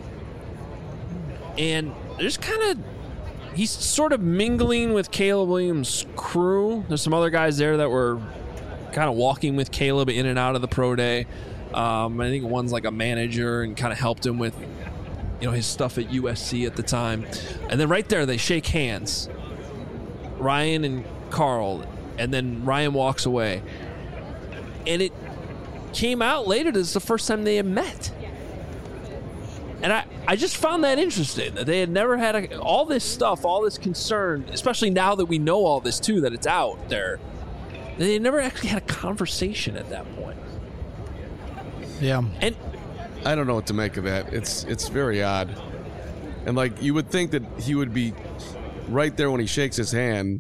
and there's kind of, he's sort of mingling with Caleb Williams' crew. There's some other guys there that were kind of walking with Caleb in and out of the pro day. Um, I think one's like a manager and kind of helped him with, you know, his stuff at U S C at the time. And then right there, they shake hands, Ryan and Carl, and then Ryan walks away. And it came out later that it's the first time they had met. And I, I just found that interesting, that they had never had a, all this stuff, all this concern, especially now that we know all this too, that it's out there. They never actually had a conversation at that point. Yeah. And I don't know what to make of that. It's it's very odd. And like you would think that he would be right there when he shakes his hand.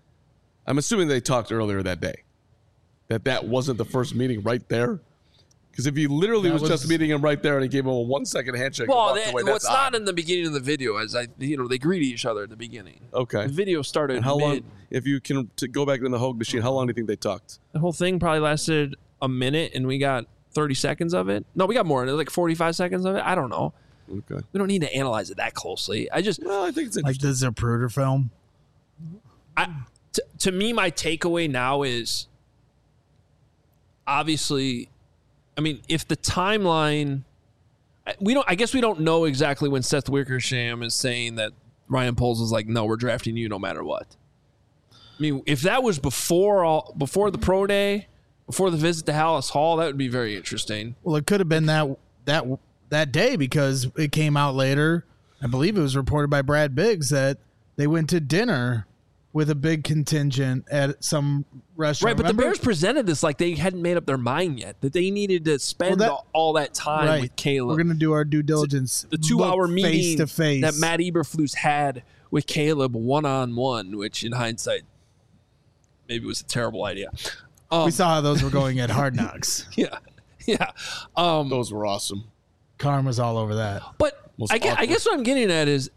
I'm assuming they talked earlier that day. That that wasn't the first meeting right there. Because if he literally was, was just meeting him right there and he gave him a one second handshake, Well, and walked they, away, well that's it's not odd. in the beginning of the video, as I, you know, they greet each other at the beginning. Okay. The video started And how mid. long? If you can to go back in the Hogue machine, how long do you think they talked? The whole thing probably lasted a minute, and we got thirty seconds of it. No, we got more. Like forty-five seconds of it. I don't know. Okay. We don't need to analyze it that closely. I just, Well, I think it's Like interesting. the Zapruder film. I, t- to me, my takeaway now is obviously, I mean, if the timeline, we don't, I guess we don't know exactly when Seth Wickersham is saying that Ryan Poles is like, no, we're drafting you no matter what. I mean, if that was before all, before the pro day, before the visit to Hallis Hall, that would be very interesting. Well, it could have been that that that day because it came out later. I believe it was reported by Brad Biggs that they went to dinner with a big contingent at some restaurant. Right, but Remember? the Bears presented this like they hadn't made up their mind yet, that they needed to spend Well, that- all, all that time Right. with Caleb. We're gonna do our due diligence. the two-hour Look meeting face to face that Matt Eberflus had with Caleb one-on-one, which in hindsight maybe was a terrible idea. Um, We saw how those were going at Hard Knocks. yeah, yeah. Um, Those were awesome. Carm was all over that. but Most I guess, I awkward. guess what I'm getting at is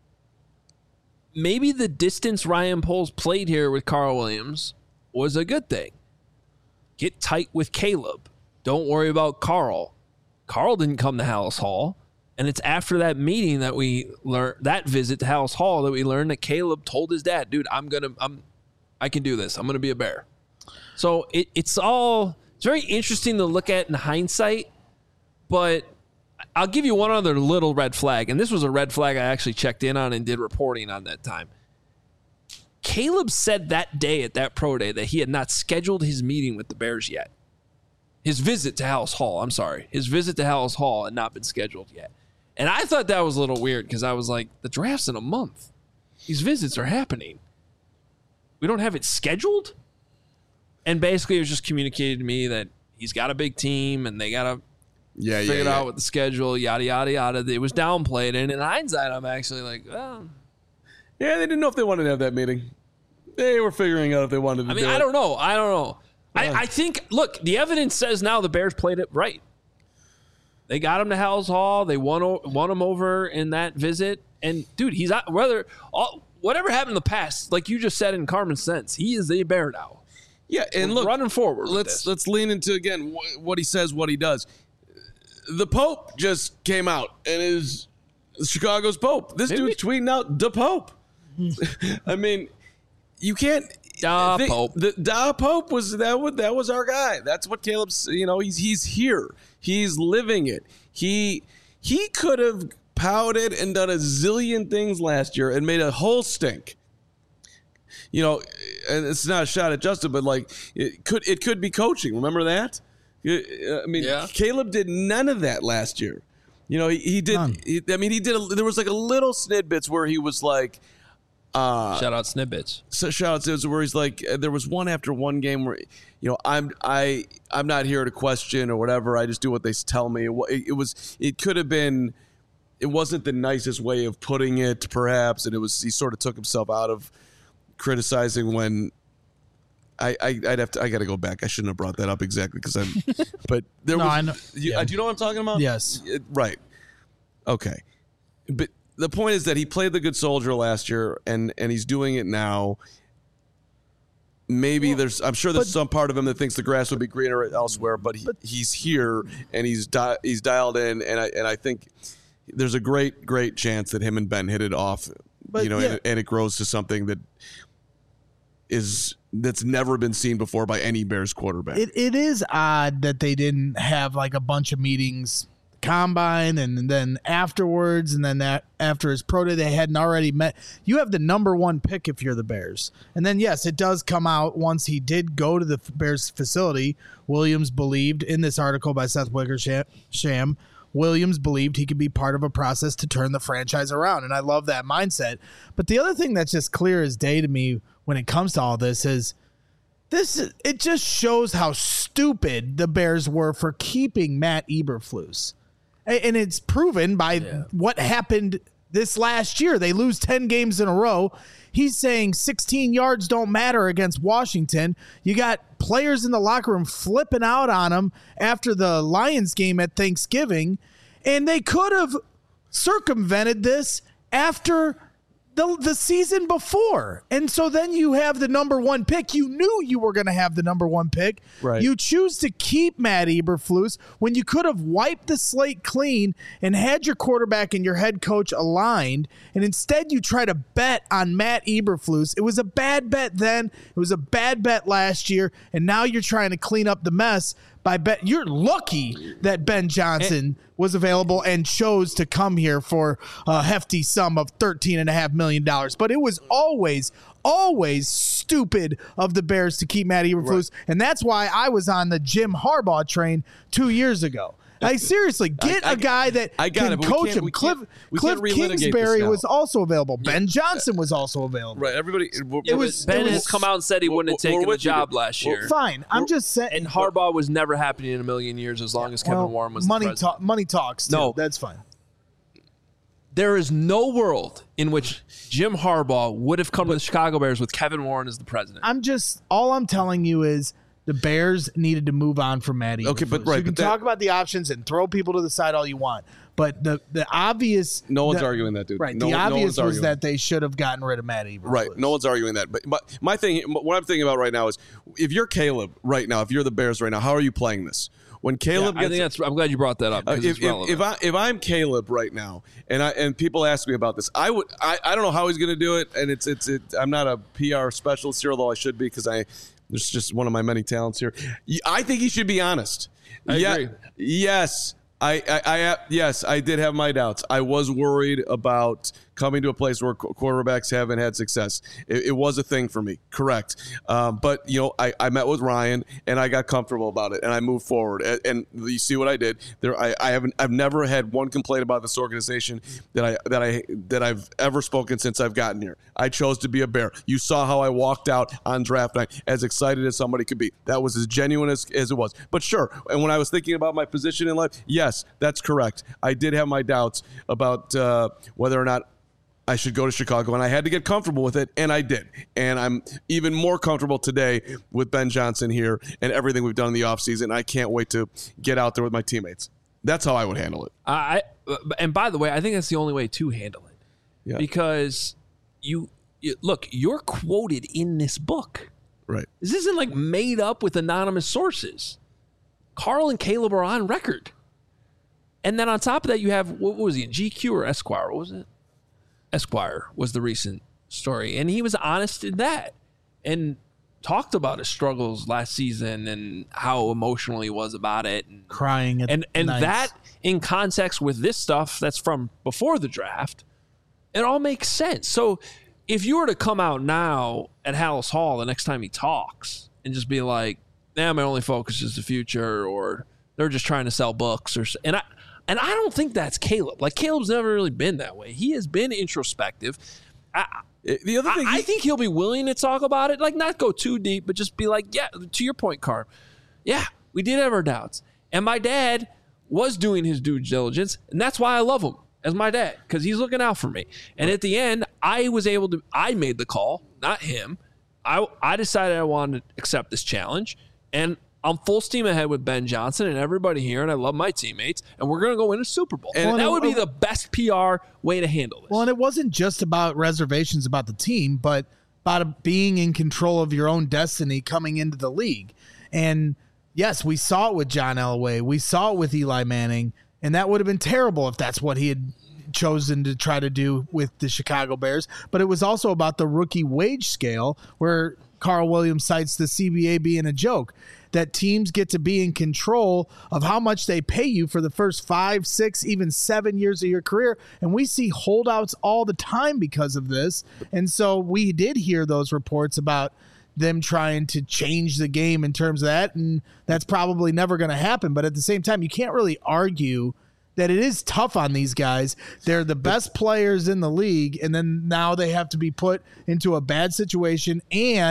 maybe the distance Ryan Poles played here with Carl Williams was a good thing. Get tight with Caleb. Don't worry about Carl. Carl didn't come to Hallis Hall. And it's after that meeting that we learned, that visit to Hallis Hall, that we learned that Caleb told his dad, dude, I'm going to, I'm, I can do this. I'm going to be a Bear. So it, it's all, it's very interesting to look at in hindsight, but I'll give you one other little red flag. And this was a red flag I actually checked in on and did reporting on that time. Caleb said that day at that pro day that he had not scheduled his meeting with the Bears yet. His visit to Hallis Hall, I'm sorry. His visit to Hallis Hall had not been scheduled yet. And I thought that was a little weird because I was like, the draft's in a month. These visits are happening. We don't have it scheduled? And basically it was just communicated to me that he's got a big team and they got to Yeah, figure yeah, it yeah. out with the schedule, yada, yada, yada. It was downplayed. And in hindsight, I'm actually like, well, Yeah, they didn't know if they wanted to have that meeting. They were figuring out if they wanted to I mean, do it. I don't know. I don't know. I, I think, look, the evidence says now the Bears played it right. They got him to Hallis Hall. They won, o- won him over in that visit. And, dude, he's not, whether, all, whatever happened in the past, like you just said in Carmen's sense, he is a Bear now. Yeah, and We're look, running forward with Let's this. let's lean into again wh- what he says, what he does. The Pope just came out and is Chicago's Pope. This Maybe- dude's tweeting out the Pope. I mean, you can't. Da think- Pope. The Da Pope was that. Was, that was our guy. That's what Caleb's. You know, he's he's here. He's living it. He he could have pouted and done a zillion things last year and made a whole stink. You know, and it's not a shot at Justin, but like it could it could be coaching. Remember that? I mean, Yeah. Caleb did none of that last year. You know, he, he did. None. He, I mean, he did. A, there was like a little snidbits where he was like, uh, Shout out Snippets. so shout out to where he's like, uh, there was one after one game where, you know, I'm I I'm not here to question or whatever. I just do what they tell me. It, wa- it, it was it could have been. It wasn't the nicest way of putting it, perhaps, and it was he sort of took himself out of criticizing when I, I I'd have to I got to go back. I shouldn't have brought that up exactly because I'm. But there No, was. I know. You, Yeah. uh, do you know what I'm talking about? Yes. It- right. Okay. But the point is that he played the good soldier last year, and and he's doing it now. Maybe there's. I'm sure there's but- some part of him that thinks the grass would be greener elsewhere, but, he, he's here and he's di- he's dialed in, and I and I think there's a great great chance that him and Ben hit it off. But, you know, yeah. and, and it grows to something that is that's never been seen before by any Bears quarterback. It it is odd that they didn't have like a bunch of meetings, combine, and then afterwards, and then that after his pro day they hadn't already met. You have the number one pick if you're the Bears, and then yes, it does come out once he did go to the Bears facility. Williams believed in this article by Seth Wickersham. Williams believed he could be part of a process to turn the franchise around, and I love that mindset. But the other thing that's just clear as day to me when it comes to all this is this. It just shows how stupid the Bears were for keeping Matt Eberflus, A- and it's proven by what happened this last year. They lose ten games in a row. He's saying sixteen yards don't matter against Washington. You got players in the locker room flipping out on him after the Lions game at Thanksgiving, and they could have circumvented this after the, the season before. And so then you have the number one pick. You knew you were going to have the number one pick. Right. You choose to keep Matt Eberflus when you could have wiped the slate clean and had your quarterback and your head coach aligned. And instead you try to bet on Matt Eberflus. It was a bad bet then. It was a bad bet last year. And now you're trying to clean up the mess by bet. You're lucky that Ben Johnson and, was available and chose to come here for a hefty sum of thirteen and a half million dollars. But it was always, always stupid of the Bears to keep Matt Eberflus. Right. And that's why I was on the Jim Harbaugh train two years ago. Like, seriously, get I, I, a guy that I got can it, coach him. Cliff, Cliff Kingsbury was also available. Ben yeah. Johnson was also available. Right, everybody. It was Ben it was, has come out and said he wouldn't have taken the job last year. Well, fine, I'm we're, just saying. And Harbaugh was never happening in a million years as long as Kevin well, Warren was money the president. Ta- money talks. Too. No, that's fine. There is no world in which Jim Harbaugh would have come to the Chicago Bears with Kevin Warren as the president. I'm just all I'm telling you is. The Bears needed to move on from Matt Eberflus. Okay, but right, you can but that, talk about the options and throw people to the side all you want, but the the obvious no one's the, arguing that, dude. Right, no, the obvious no was that they should have gotten rid of Matt Eberflus. Right, no one's arguing that. But but my thing, what I'm thinking about right now is, if you're Caleb right now, if you're the Bears right now, how are you playing this? When Caleb, yeah, I gets, think that's. I'm glad you brought that up. Uh, if, if, if I if I'm Caleb right now, and I and people ask me about this, I would I, I don't know how he's going to do it, and it's it's it, I'm not a P R specialist here, although I should be because I. There's just one of my many talents here. I think he should be honest. I yeah, agree. Yes, I, I, I, yes, I did have my doubts. I was worried about coming to a place where quarterbacks haven't had success. It, it was a thing for me, correct. Um, but, you know, I, I met with Ryan, and I got comfortable about it, and I moved forward. And, and you see what I did there. I, I haven't. I've never had one complaint about this organization that I that I that I've ever spoken since I've gotten here. I chose to be a Bear. You saw how I walked out on draft night, as excited as somebody could be. That was as genuine as, as it was. But sure, and when I was thinking about my position in life, yes, that's correct. I did have my doubts about uh, whether or not I should go to Chicago, and I had to get comfortable with it, and I did. And I'm even more comfortable today with Ben Johnson here and everything we've done in the offseason. I can't wait to get out there with my teammates. That's how I would handle it. I And by the way, I think that's the only way to handle it. Yeah. Because you, you look, you're quoted in this book. Right. This isn't like made up with anonymous sources. Carl and Caleb are on record. And then on top of that, you have, what was he in G Q or Esquire? What was it? Esquire was the recent story, and he was honest in that and talked about his struggles last season and how emotional he was about it, and crying at and and nights. That in context with this stuff that's from before the draft, it all makes sense. So if you were to come out now at Hallis Hall the next time he talks and just be like, "Nah, my only focus is the future," or they're just trying to sell books, or and I. And I don't think that's Caleb. Like, Caleb's never really been that way. He has been introspective. I, the other thing, I, I think he'll be willing to talk about it. Like, not go too deep, but just be like, yeah, to your point, Carm. Yeah, we did have our doubts. And my dad was doing his due diligence, and that's why I love him as my dad, because he's looking out for me. And at the end, I was able to, I made the call, not him. I, I decided I wanted to accept this challenge, and I'm full steam ahead with Ben Johnson and everybody here, and I love my teammates, and we're going to go win a Super Bowl. And well, that would be the best P R way to handle this. Well, and it wasn't just about reservations about the team, but about being in control of your own destiny coming into the league. And yes, we saw it with John Elway. We saw it with Eli Manning, and that would have been terrible if that's what he had chosen to try to do with the Chicago Bears. But it was also about the rookie wage scale, where Carl Williams cites the C B A being a joke, that teams get to be in control of how much they pay you for the first five, six, even seven years of your career. And we see holdouts all the time because of this. And so we did hear those reports about them trying to change the game in terms of that. And that's probably never going to happen. But at the same time, you can't really argue that it is tough on these guys. They're the best players in the league, and then now they have to be put into a bad situation, and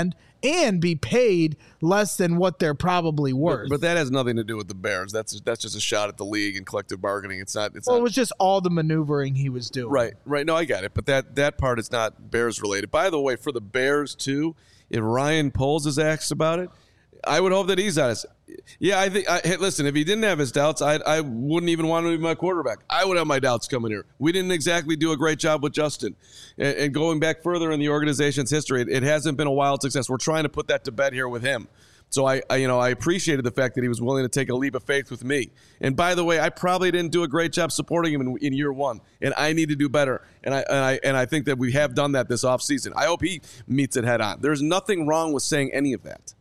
and be paid less than what they're probably worth. But, but that has nothing to do with the Bears. That's that's just a shot at the league and collective bargaining. It's not. It's well, not, it was just all the maneuvering he was doing. Right, right. No, I got it. But that that part is not Bears related. By the way, for the Bears too, if Ryan Poles is asked about it, I would hope that he's honest. Yeah, I think. I, hey, listen, if he didn't have his doubts, I I wouldn't even want him to be my quarterback. I would have my doubts coming here. We didn't exactly do a great job with Justin, and, and going back further in the organization's history, it, it hasn't been a wild success. We're trying to put that to bed here with him. So I, I, you know, I appreciated the fact that he was willing to take a leap of faith with me. And by the way, I probably didn't do a great job supporting him in, in year one, and I need to do better. And I, and I, and I think that we have done that this offseason. I hope he meets it head on. There's nothing wrong with saying any of that.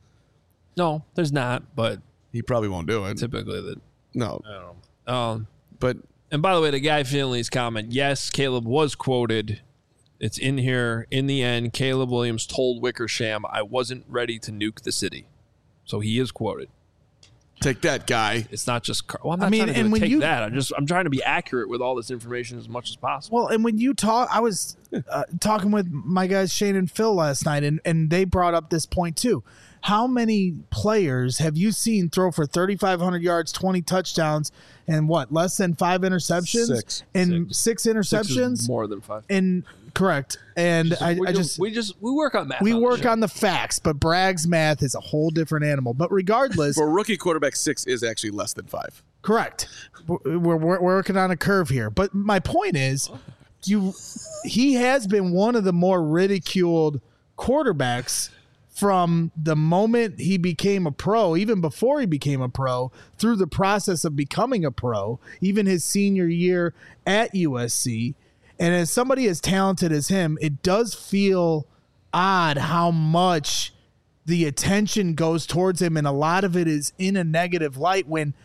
No, there's not, but he probably won't do it. Typically, that no. I don't know. Um, but and by the way, the Guy Finley's comment. Yes, Caleb was quoted. It's in here. In the end, Caleb Williams told Wickersham, "I wasn't ready to nuke the city." So he is quoted. Take that, Guy. It's not just. Well, I'm not I mean, trying to and when take you, that. I'm just. I'm trying to be accurate with all this information as much as possible. Well, and when you talk, I was uh, talking with my guys Shane and Phil last night, and and they brought up this point too. How many players have you seen throw for thirty-five hundred yards, twenty touchdowns, and what, less than five interceptions? Six. And six, six interceptions? Six more than five. And correct. And Just, I, we I just, just we just we work on math. we on work the on the facts, but Bragg's math is a whole different animal. But regardless, for a rookie quarterback, six is actually less than five. correct. We're, we're, we're working on a curve here. But my point is, you he has been one of the more ridiculed quarterbacks from the moment he became a pro, even before he became a pro, through the process of becoming a pro, even his senior year at U S C. And as somebody as talented as him, it does feel odd how much the attention goes towards him, and a lot of it is in a negative light when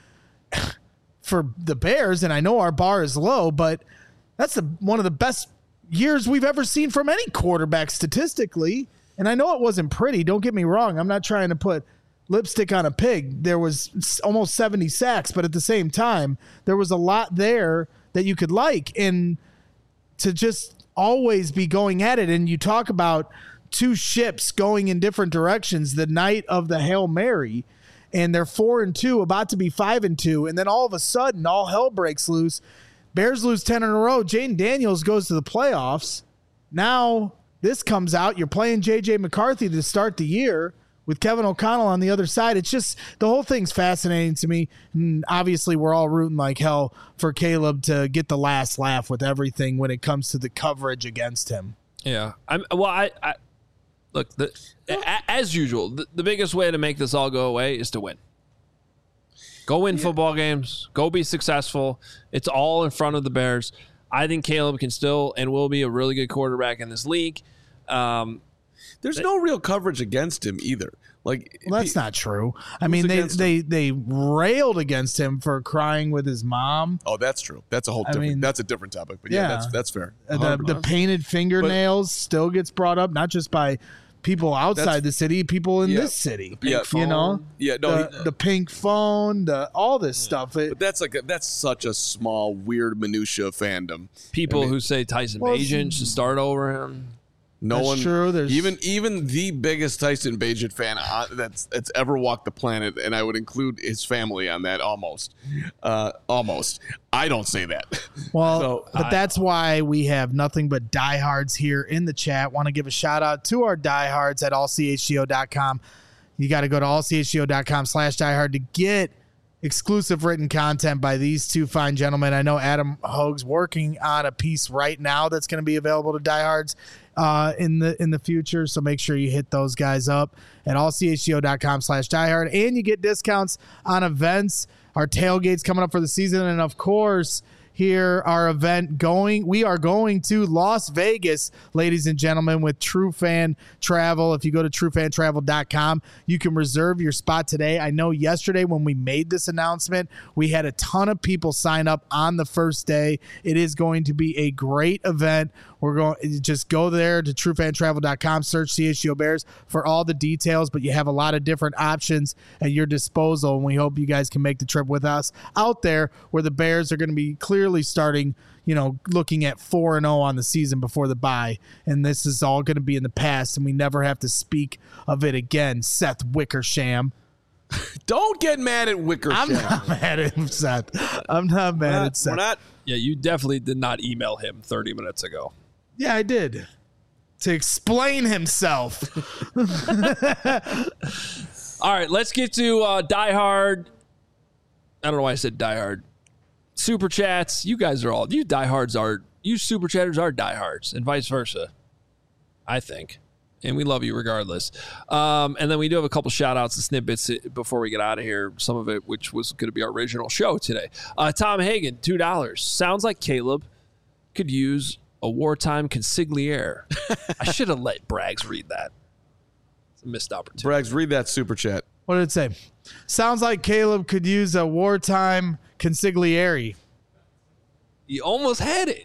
for the Bears, and I know our bar is low, but that's the, one of the best years we've ever seen from any quarterback statistically. And I know it wasn't pretty. Don't get me wrong. I'm not trying to put lipstick on a pig. There was almost seventy sacks, but at the same time, there was a lot there that you could like. And to just always be going at it. And you talk about two ships going in different directions the night of the Hail Mary, and they're four and two, about to be five and two. And then all of a sudden, all hell breaks loose. Bears lose ten in a row. Jaden Daniels goes to the playoffs. Now this comes out. You're playing J J McCarthy to start the year with Kevin O'Connell on the other side. It's just, the whole thing's fascinating to me. And obviously, we're all rooting like hell for Caleb to get the last laugh with everything when it comes to the coverage against him. Yeah. I'm well, I, I look, the, a, as usual, the, the biggest way to make this all go away is to win. Go win yeah. football games. Go be successful. It's all in front of the Bears. I think Caleb can still and will be a really good quarterback in this league. Um, There's no real coverage against him either. Like, well, that's he, not true. I mean, they they, they railed against him for crying with his mom. Oh, that's true. That's a whole different. I mean, that's a different topic. But yeah, yeah that's that's fair. The, the painted fingernails but, still gets brought up, not just by people outside the city, people in yeah, this city. Yeah, you know, yeah, no, the, he, the pink phone, the all this yeah. stuff. It, but that's like a, that's such a small, weird minutia of fandom. People I mean, who say Tyson well, Bagent should start over him. No that's one, true. There's even even the biggest Tyson Bagent fan uh, that's that's ever walked the planet, and I would include his family on that. Almost, uh, almost. I don't say that. Well, so, but I, that's why we have nothing but diehards here in the chat. Want to give a shout out to our diehards at all c h g o dot com. You got to go to all c h g o dot com slash diehard to get exclusive written content by these two fine gentlemen. I know Adam Hogue's working on a piece right now that's going to be available to diehards uh, in the in the future. So make sure you hit those guys up at all c h g o dot com slash diehard, and you get discounts on events. Our tailgate's coming up for the season, and of course, here our event going. We are going to Las Vegas, ladies and gentlemen, with True Fan Travel. If you go to true fan travel dot com, you can reserve your spot today. I know yesterday when we made this announcement, we had a ton of people sign up on the first day. It is going to be a great event. We're going just go there to true fan travel dot com, search C H G O Bears for all the details, but you have a lot of different options at your disposal, and we hope you guys can make the trip with us out there where the Bears are going to be clearly clearly starting, you know, looking at four and oh on the season before the bye. And this is all going to be in the past, and we never have to speak of it again. Seth Wickersham. Don't get mad at Wickersham. I'm not mad at him, Seth. I'm not mad not, at Seth. We're not. Yeah, you definitely did not email him thirty minutes ago. Yeah, I did. To explain himself. All right, let's get to uh, Die Hard. I don't know why I said Die Hard. Super chats. You guys are all, you diehards are, you super chatters are diehards, and vice versa, I think. And we love you regardless. Um, and then we do have a couple shout outs and snippets before we get out of here. Some of it, which was going to be our original show today. Uh, Tom Hagen, two dollars. Sounds like Caleb could use a wartime consigliere. I should have let Braggs read that. It's a missed opportunity. Braggs, read that super chat. What did it say? Sounds like Caleb could use a wartime consigliere. You almost had it.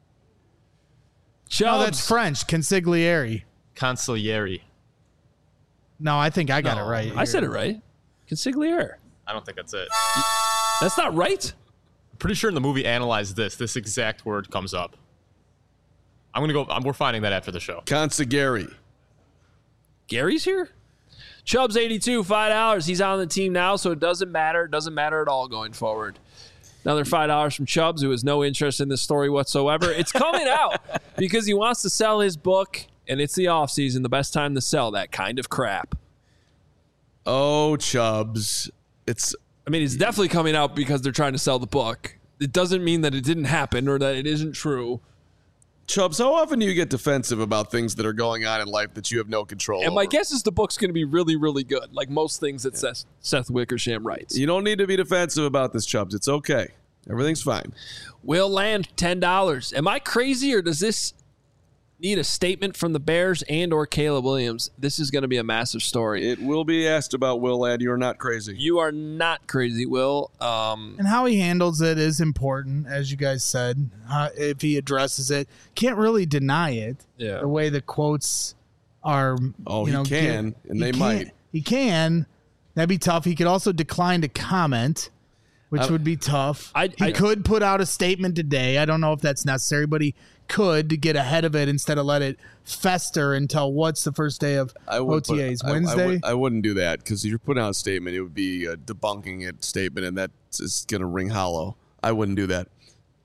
No, that's French. Consigliere. Consigliere. No, I think I got No, it right. I said it right. Consigliere. I don't think that's it. That's not right. I'm pretty sure in the movie Analyze This, this exact word comes up. I'm going to go. We're finding that after the show. Consigliere. Gary's here? Chubbs eighty-two, five dollars. He's on the team now, so it doesn't matter. It doesn't matter at all going forward. Another five dollars from Chubbs, who has no interest in this story whatsoever. It's coming out because he wants to sell his book, and it's the offseason, the best time to sell that kind of crap. Oh, Chubbs. It's. I mean, it's definitely coming out because they're trying to sell the book. It doesn't mean that it didn't happen or that it isn't true. Chubbs, how often do you get defensive about things that are going on in life that you have no control And over? my guess is the book's going to be really, really good, like most things that yeah. Seth, Seth Wickersham writes. You don't need to be defensive about this, Chubbs. It's okay. Everything's fine. Will Land, ten dollars. Am I crazy, or does this need a statement from the Bears and or Caleb Williams? This is going to be a massive story. It will be asked about Will Land. You're not crazy. You are not crazy, Will. Um, and how he handles it is important, as you guys said. Uh, if he addresses it, can't really deny it. Yeah. The way the quotes are. Oh, you know, he can, get, and he they can, might. He can. That'd be tough. He could also decline to comment, which I, would be tough. I, he I, could put out a statement today. I don't know if that's necessary, but he could to get ahead of it instead of let it fester until what's the first day of O T As? Put, Wednesday? I, I, would, I wouldn't do that because if you're putting out a statement, it would be a debunking it statement, and that's just going to ring hollow. I wouldn't do that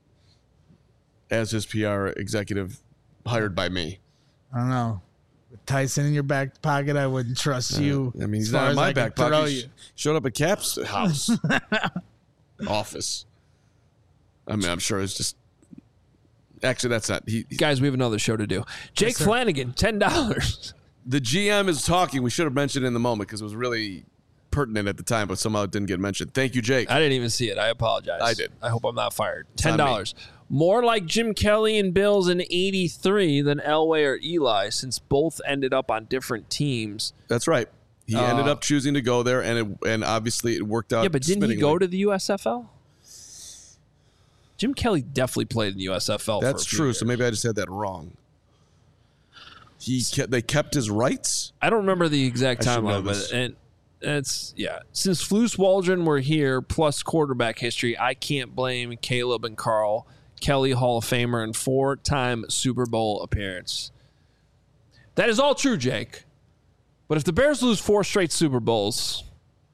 as his P R executive hired by me. I don't know. With Tyson in your back pocket, I wouldn't trust uh, you. I mean, he's not in my back pocket. He showed up at Cap's house, office. I mean, I'm sure it's just. Actually, that's not. He, Guys, we have another show to do. Jake yes, Flanagan, ten dollars. The G M is talking. We should have mentioned it in the moment because it was really pertinent at the time, but somehow it didn't get mentioned. Thank you, Jake. I didn't even see it. I apologize. I did. I hope I'm not fired. ten dollars. More like Jim Kelly and Bills in eighty-three than Elway or Eli, since both ended up on different teams. That's right. He uh, ended up choosing to go there, and it, and obviously it worked out. Yeah, but didn't he go to the U S F L? Jim Kelly definitely played in the U S F L. That's for a few true. years. So maybe I just had that wrong. He kept, they kept his rights. I don't remember the exact timeline, but and it's yeah. Since Flus Waldron were here, plus quarterback history, I can't blame Caleb and Carl. Kelly, Hall of Famer, and four-time Super Bowl appearance. That is all true, Jake. But if the Bears lose four straight Super Bowls,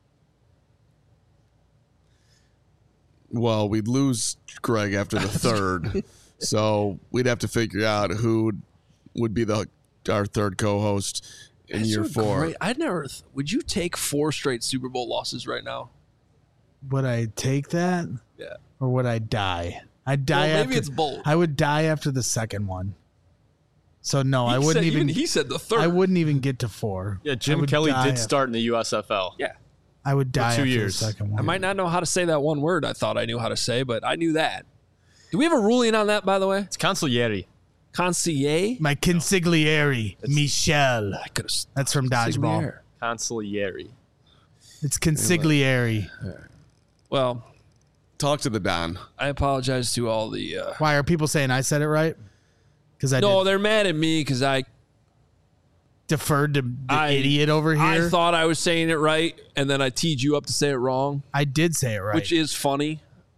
well, we'd lose Greg after the third, so we'd have to figure out who would be the our third co-host in That's year so four. Great. I'd never. Th- would you take four straight Super Bowl losses right now? Would I take that? Yeah. Or would I die? I'd die. Well, maybe after, it's bold. I would die after the second one. So no, he I wouldn't said, even, even. He said the third. I wouldn't even get to four. Yeah, Jim Kelly did after, start in the U S F L. Yeah. I would die For two after years. the second one. I might not know how to say that one word I thought I knew how to say, but I knew that. Do we have a ruling on that, by the way? It's consigliere. Consigliere? My consigliere, It's- Michelle. I could have. That's from Dodgeball. Consigliere. It's consigliere. Well, Talk to the Don. I apologize to all the. Uh, Why are people saying I said it right? Because I no, did. they're mad at me because I deferred to the I- idiot over here. I thought I was saying it right, and then I teed you up to say it wrong, I did say it right. which is funny.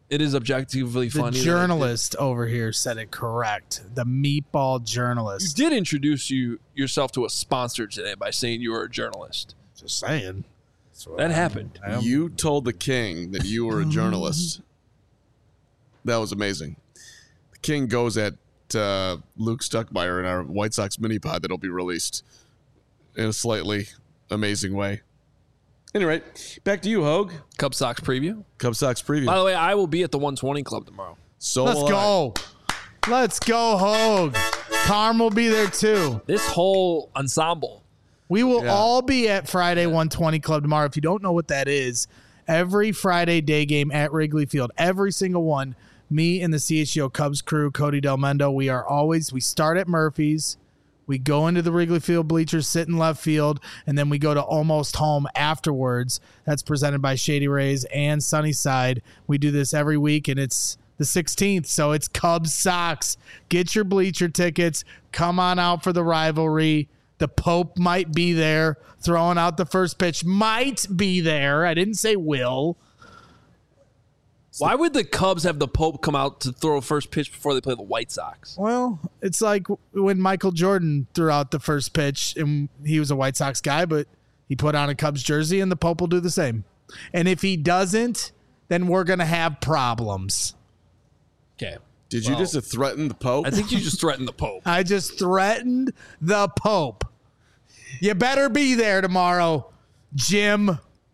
It is objectively The funny. that I journalist over here said it correct. The meatball did- journalist. You did introduce you yourself to a sponsor today by saying you were a journalist. Just saying. That happened. You told the king that you were a journalist. That was amazing. The king goes at uh, Luke Stuckmeyer in our White Sox mini pod that'll be released in a slightly amazing way. Anyway, back to you, Hogue. Cub Sox preview. Cub Sox preview. By the way, I will be at the one twenty Club tomorrow. So Let's will I. go. Let's go, Hogue. Carm will be there too. This whole ensemble. We will Yeah. all be at Friday one twenty Club tomorrow. If you don't know what that is, every Friday day game at Wrigley Field, every single one, me and the C H G O Cubs crew, Cody Del Mendo, we are always, we start at Murphy's, we go into the Wrigley Field bleachers, sit in left field, and then we go to Almost Home afterwards. That's presented by Shady Rays and Sunnyside. We do this every week, and it's the sixteenth, so it's Cubs Sox. Get your bleacher tickets. Come on out for the rivalry. The Pope might be there throwing out the first pitch. Might be there. I didn't say will. Why would the Cubs have the Pope come out to throw first pitch before they play the White Sox? Well, it's like when Michael Jordan threw out the first pitch, and he was a White Sox guy, but he put on a Cubs jersey, and the Pope will do the same. And if he doesn't, then we're going to have problems. Okay. Did you Well, just threaten the Pope? I think you just threatened the Pope. I just threatened the Pope. You better be there tomorrow, Jim. Isn't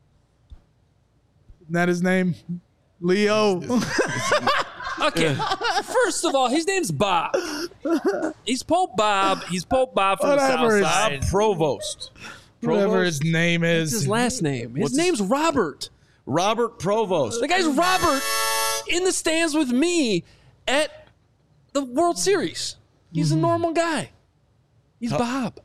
that his name? Leo. Okay. First of all, his name's Bob. He's Pope Bob. He's Pope Bob from Whatever the his- South Side. Provost. Whatever his name What's is. his last name? His What's name's Robert. Robert Provost. The guy's Robert in the stands with me at the World Series. He's a normal guy. He's Bob.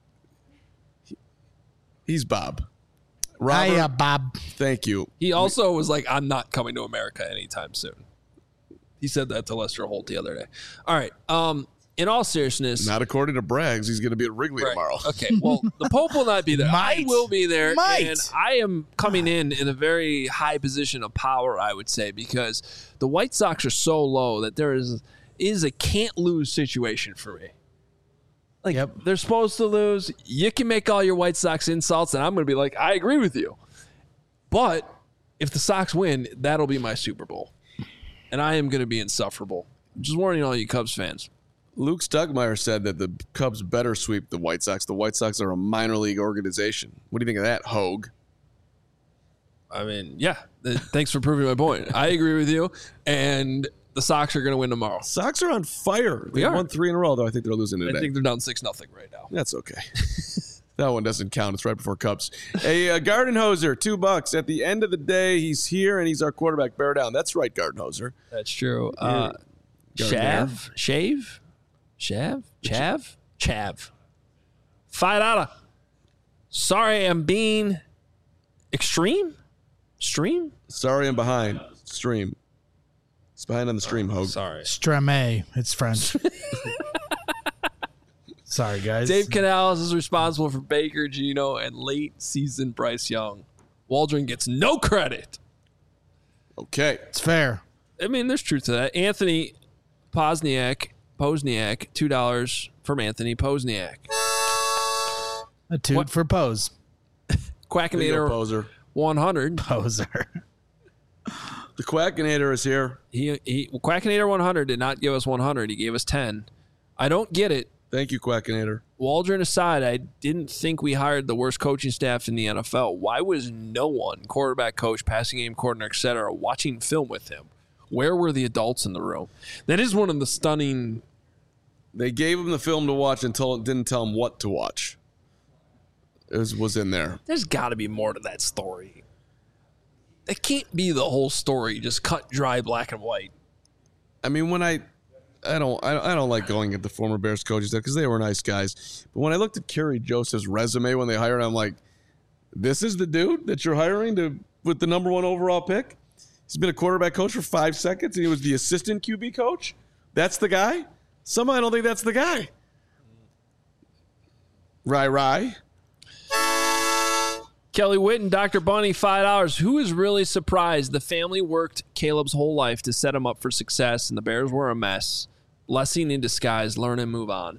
He's Bob. Robert, Hiya, Bob. thank you. He also was like, I'm not coming to America anytime soon. He said that to Lester Holt the other day. All right. Um, in all seriousness. Not according to Braggs. He's going to be at Wrigley Right. tomorrow. Okay. Well, the Pope will not be there. I Might. will be there. Might. And I am coming in in a very high position of power, I would say, because the White Sox are so low that there is, is a can't lose situation for me. Like, Yep. they're supposed to lose. You can make all your White Sox insults, and I'm going to be like, I agree with you. But if the Sox win, that'll be my Super Bowl. And I am going to be insufferable. Just warning all you Cubs fans. Luke Stuckmeyer said that the Cubs better sweep the White Sox. The White Sox are a minor league organization. What do you think of that, Hogue? I mean, yeah. th- Thanks for proving my point. I agree with you. And the Sox are going to win tomorrow. Sox are on fire. They We are. won three in a row, though I think they're losing I today. think they're down six nothing right now. That's okay. That one doesn't count. It's right before Cubs. A uh, Garden Hoser, two bucks. At the end of the day, he's here and he's our quarterback. Bear down. That's right, Garden Hoser. That's true. Uh, Gardner. Shav? Shave? Shav? Chav? Chav. Five dollar. Sorry, I'm being extreme? Stream? Sorry, I'm behind. Stream. It's behind on the stream, Hogue. Sorry. Strame. It's French. Sorry, guys. Dave Canales is responsible for Baker, Geno, and late season Bryce Young. Waldron gets no credit. Okay. It's fair. I mean, there's truth to that. Anthony Posniak, Posniak, two dollars from Anthony Posniak. A toot What? for pose. There you go, Quackinator poser. one hundred. Poser. The Quackinator is here. He, he Quackinator one hundred did not give us one hundred. He gave us ten. I don't get it. Thank you, Quackinator. Waldron aside, I didn't think we hired the worst coaching staff in the N F L. Why was no one, quarterback coach, passing game coordinator, et cetera, watching film with him? Where were the adults in the room? That is one of the stunning. They gave him the film to watch and told, didn't tell him what to watch. It was, was in there. There's got to be more to that story. That can't be the whole story, just cut dry, black and white. I mean, when I, I don't, I, I don't like going at the former Bears coaches because they were nice guys. But when I looked at Kerry Joseph's resume when they hired him, I'm like, this is the dude that you're hiring to with the number one overall pick. He's been a quarterback coach for five seconds, and he was the assistant Q B coach. That's the guy. Somehow I don't think that's the guy. Rye, rye. Kelly Witten, Doctor Bunny, five dollars. Who is really surprised? The family worked Caleb's whole life to set him up for success, and the Bears were a mess. Blessing in disguise. Learn and move on.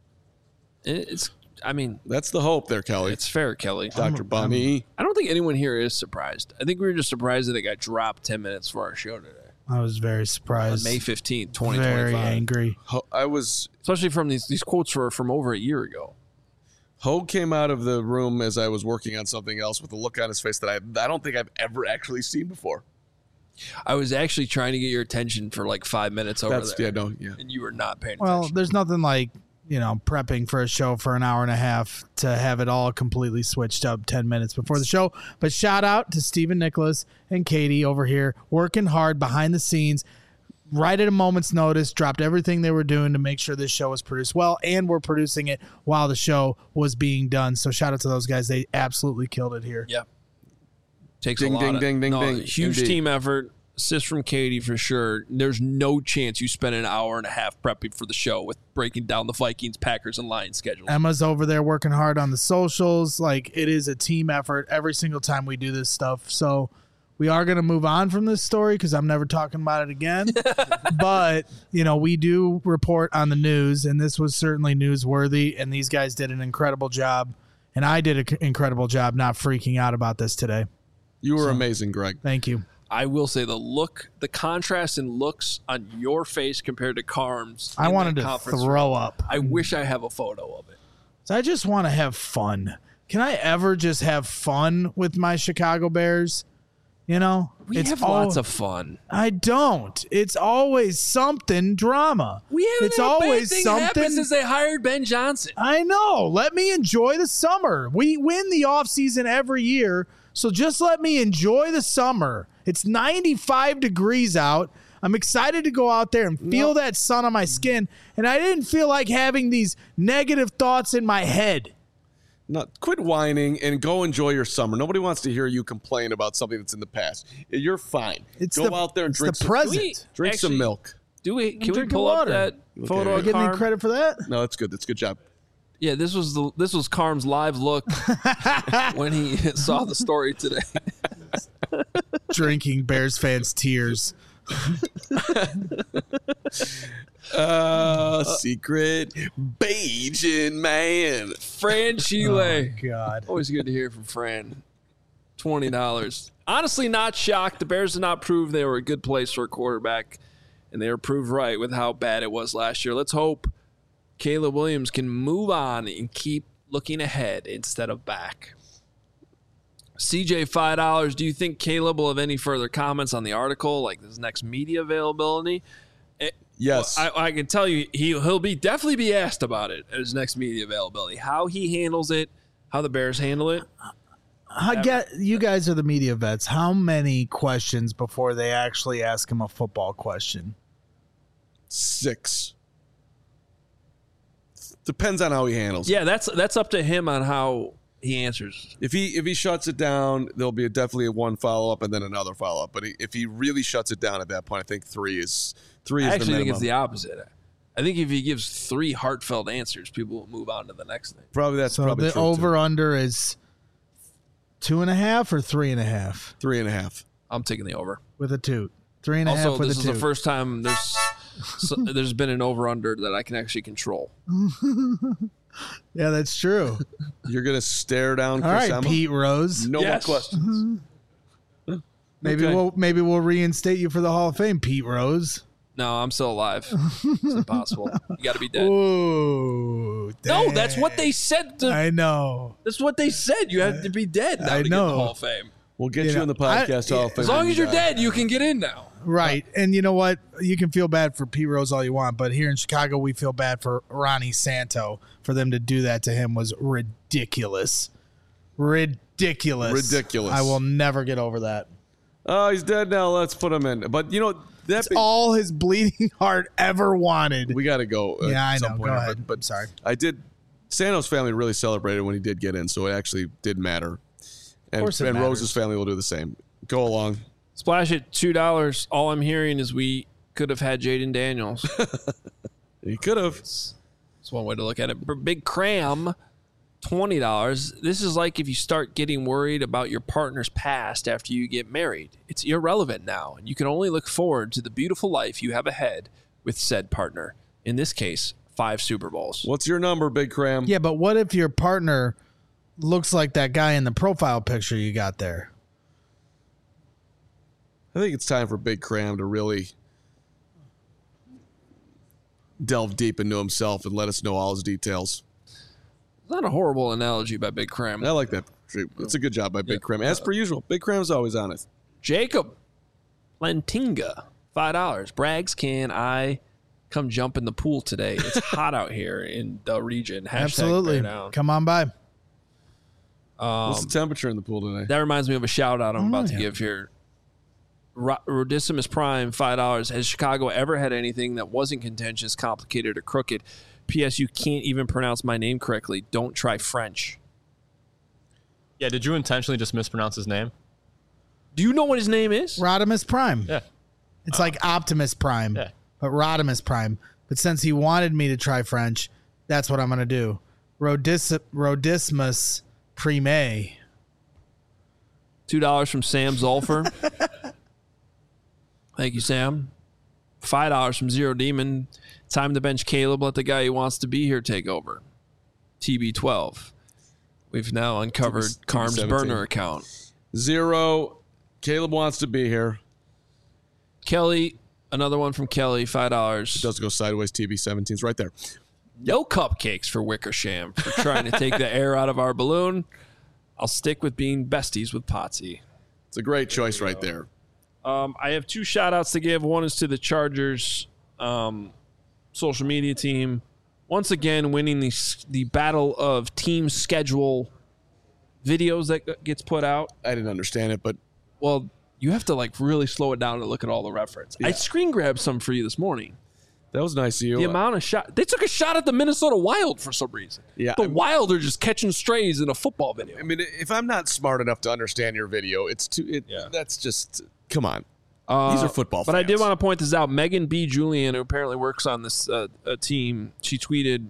It's, I mean, That's the hope there, Kelly. it's fair, Kelly. Doctor Bunny. I don't think anyone here is surprised. I think we were just surprised that it got dropped ten minutes for our show today. I was very surprised. On May fifteenth, twenty Very twenty-five. angry. Ho- I was Especially from these, these quotes were from over a year ago. Hogue came out of the room as I was working on something else with a look on his face that I I don't think I've ever actually seen before. I was actually trying to get your attention for like five minutes over That's there. yeah, no, yeah. And you were not paying Well, attention. there's nothing like, you know, prepping for a show for an hour and a half to have it all completely switched up ten minutes before the show. But shout out to Stephen Nicholas and Katie over here working hard behind the scenes, right at a moment's notice, dropped everything they were doing to make sure this show was produced well, and we're producing it while the show was being done. So shout out to those guys. They absolutely killed it here. Yep. Takes Ding, a lot ding, of, ding, ding, no, ding. huge Indeed. team effort. Assist from Katie for sure. There's no chance you spend an hour and a half prepping for the show with breaking down the Vikings, Packers, and Lions schedules. Emma's over there working hard on the socials. Like, it is a team effort every single time we do this stuff. So we are going to move on from this story because I'm never talking about it again. But, you know, we do report on the news, and this was certainly newsworthy, and these guys did an incredible job. And I did an incredible job not freaking out about this today. You were amazing, Greg. Thank you. I will say the look, the contrast in looks on your face compared to Carm's. I in wanted that to conference throw room. up. I wish I have a photo of it. So I just want to have fun. Can I ever just have fun with my Chicago Bears? You know, We it's have all- lots of fun. I don't. It's always something drama. We haven't It's had a always bad thing something. happen since they hired Ben Johnson. I know. Let me enjoy the summer. We win the offseason every year, so just let me enjoy the summer. It's ninety-five degrees out. I'm excited to go out there and feel that sun on my skin, and I didn't feel like having these negative thoughts in my head. No, quit whining and go enjoy your summer. Nobody wants to hear you complain about something that's in the past. You're fine. It's go the, out there and it's drink the some, present. We- drink some Actually- milk. Do we? Can we drinking pull up water. that photo Okay. Do I of get any Carm? credit for that? No, that's good. That's a good job. Yeah, this was the this was Carm's live look when he saw the story today. Drinking Bears fans' tears. Uh, secret Bajan man. Fran Chile. God. Always good to hear from Fran. twenty dollars. Honestly, not shocked. The Bears did not prove they were a good place for a quarterback, and they were proved right with how bad it was last year. Let's hope Caleb Williams can move on and keep looking ahead instead of back. C J, five dollars. Do you think Caleb will have any further comments on the article, like this next media availability? It, Yes. well, I, I can tell you he, he'll be definitely be asked about it at his next media availability. How he handles it, how the Bears handle it. I get you guys are the media vets. How many questions before they actually ask him a football question? Six. Depends on how he handles it. Yeah, that's that's up to him on how he answers. If he if he shuts it down, there'll be a, definitely a one follow up and then another follow up. But he, if he really shuts it down at that point, I think three is three I is actually the think minimum. it's the opposite. I think if he gives three heartfelt answers, people will move on to the next thing. Probably that's So probably the true, over too. under is two and a half or three and a half Three and a half. I'm taking the over. with a toot. Three and a half Also, with this a is toot. the first time there's so, there's been an over under that I can actually control. Yeah, that's true. You're gonna stare down All Chris right, Emma? Pete Rose. No Yes. more questions. Maybe Okay. we'll maybe we'll reinstate you for the Hall of Fame, Pete Rose. No, I'm still alive. It's impossible. You got to be dead. Ooh, No, that's what dang. they said. To, I know. that's what they said. You have to be dead now I to get know. the Hall of Fame. We'll get You you, know, in the I- podcast Hall of Fame As long when as you you're die. dead, you can get in now. Right. And you know what? You can feel bad for Pete Rose all you want, but here in Chicago, we feel bad for Ronnie Santo. For them to do that to him was ridiculous. Ridiculous. Ridiculous. I will never get over that. Oh, he's dead now. Let's put him in. But you know that It's all his bleeding heart ever wanted. we got to go. at Yeah, I some know. point Go here, ahead. But, but I'm sorry. I did. Santos' family really celebrated when he did get in, so it actually did matter. And, course it and matters. Rose's family will do the same. Go along. Splash at two dollars. All I'm hearing is we could have had Jaden Daniels. He could have. That's one way to look at it. B- Big Cram twenty dollars. This is like if you start getting worried about your partner's past after you get married. It's irrelevant now, and you can only look forward to the beautiful life you have ahead with said partner. In this case, five Super Bowls. What's your number, Big Cram? Yeah, but what if your partner looks like that guy in the profile picture you got there? I think it's time for Big Cram to really delve deep into himself and let us know all his details. Not a horrible analogy by Big Cram. I like that. It's a good job by Big Yeah. Cram. As per usual, Big Cram's always on it. Jacob Lentinga, five dollars. Braggs, can I come jump in the pool today? It's hot out here in the region. Hashtag Absolutely. bear down. Come on by. Um, What's the temperature in the pool today? That reminds me of a shout out I'm about to yeah. give here. Ro- Rodissimus Prime, five dollars. Has Chicago ever had anything that wasn't contentious, complicated, or crooked? P S. You can't even pronounce my name correctly. Don't try French. Yeah, did you intentionally just mispronounce his name? Do you know what his name is? Rodimus Prime. Yeah. It's like Optimus Prime, Yeah. but Rodimus Prime. But since he wanted me to try French, that's what I'm going to do. Rodis- Rodismus Prime. two dollars from Sam Zolfer. Thank you, Sam. five dollars from Zero Demon. Time to bench Caleb. Let the guy who wants to be here take over. T B twelve. We've now uncovered T B Carm's seventeen. burner account. Zero. Caleb wants to be here. Kelly, another one from Kelly, five dollars. It does go sideways. T B seventeen's right there. No cupcakes for Wickersham for trying to take the air out of our balloon. I'll stick with being besties with Potsy. It's a great choice right there. Um, I have two shout outs to give. One is to the Chargers um, social media team. Once again, winning the, the battle of team schedule videos that gets put out. I didn't understand it, but Well, you have to like really slow it down to look at all the reference. I Yeah. screen grabbed some for you this morning. that was nice of you. The amount of shot they took a shot at the Minnesota Wild for some reason. Yeah, the I'm- Wild are just catching strays in a football video. I mean, if I'm not smart enough to understand your video, it's too. It, Yeah. That's just. Come on. Uh, These are football But I did fans. want to point this out. Megan B. Julian, who apparently works on this uh, uh, team, she tweeted,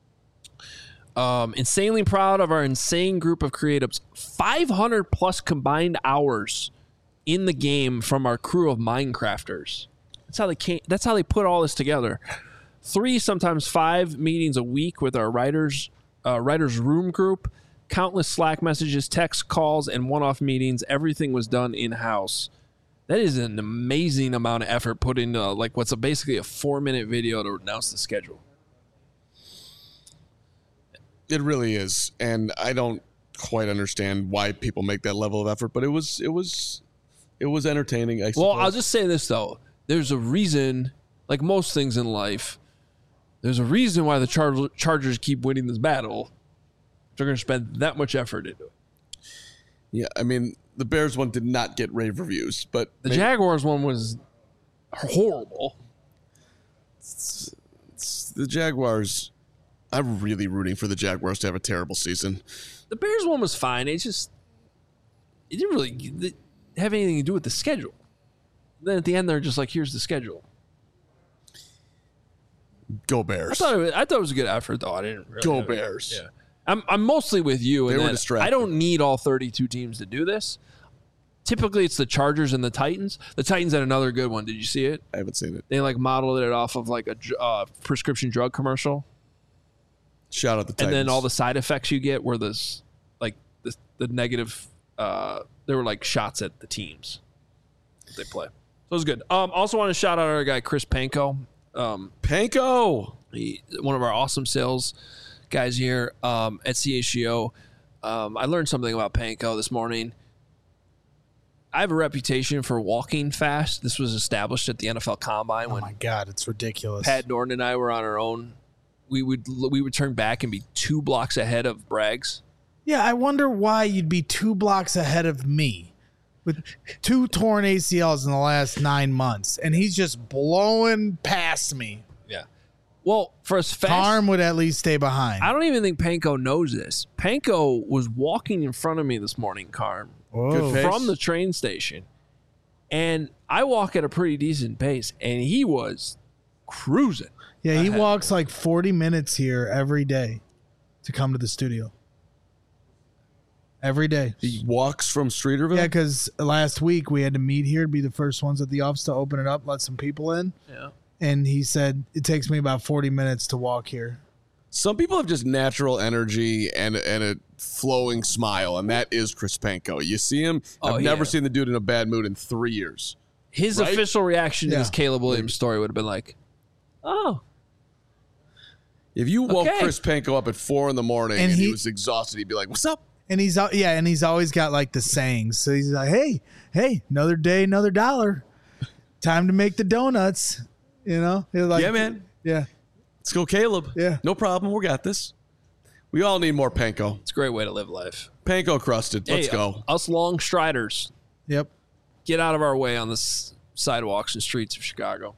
um, insanely proud of our insane group of creatives. five hundred plus combined hours in the game from our crew of Minecrafters. That's how they came, that's how they put all this together. Three, sometimes five meetings a week with our writers, uh, writers room group. Countless Slack messages, text calls, and one-off meetings. Everything was done in-house. That is an amazing amount of effort put into like what's a basically a four-minute video to announce the schedule. It really is, and I don't quite understand why people make that level of effort. But it was, it was, it was entertaining. I Well, suppose. I'll just say this though: there's a reason, like most things in life, there's a reason why the Char- Chargers keep winning this battle. They're going to spend that much effort into it. Yeah, I mean, the Bears one did not get rave reviews, but The maybe- Jaguars one was horrible. it's the Jaguars. I'm really rooting for the Jaguars to have a terrible season. The Bears one was fine. It just it didn't really have anything to do with the schedule. Then at the end, they're just like, "Here's the schedule." Go I Bears. thought it was, I thought it was a good effort, though. I didn't really Go have- Bears. Yeah, I'm I'm mostly with you. They And were that distracted. I don't need all thirty-two teams to do this. Typically, it's the Chargers and the Titans. The Titans had another good one. Did you see it? I haven't seen it. They like modeled it off of like a dr- uh, prescription drug commercial, Shout out the Titans. and then all the side effects you get were this like the the negative. Uh, they were like shots at the teams that they play. So it was good. Um, also want to shout out our guy Chris Panko. Um, Panko. He, one of our awesome sales guys here um, at C H G O. Um, I learned something about Panko this morning. I have a reputation for walking fast. This was established at the N F L Combine Oh when my God, it's ridiculous. Pat Norton and I were on our own. We would we would turn back and be two blocks ahead of Braggs. Yeah, I wonder why you'd be two blocks ahead of me with two torn A C Ls in the last nine months, and he's just blowing past me. Yeah. Well, for as fast, Carm would at least stay behind. I don't even think Panko knows this. Panko was walking in front of me this morning, Carm. Whoa. Good pace. From the train station, and I walk at a pretty decent pace, and he was cruising. Yeah, he ahead. walks like forty minutes here every day to come to the studio. every day. He walks from Streeterville? Yeah, because last week we had to meet here to be the first ones at the office to open it up, let some people in. Yeah. And he said it takes me about forty minutes to walk here. Some people have just natural energy and and a flowing smile, and that is Chris Panko. You see him. Oh, I've never yeah. seen the dude in a bad mood in three years. His Right? official reaction to Yeah. this Caleb Williams story would have been like, oh. If you woke Okay. Chris Panko up at four in the morning And and, he, he- was exhausted, he'd be like, "What's up?" And he's al- yeah, and he's always got like the sayings. So he's like, "Hey, hey, another day, another dollar. Time to make the donuts." You know? He's like, Yeah, man. Yeah. Let's go, Caleb. Yeah. No problem. We got this. We all need more Panko. It's a great way to live life. Panko crusted. Let's Hey, go. Us long striders, Yep. get out of our way on the s- sidewalks and streets of Chicago.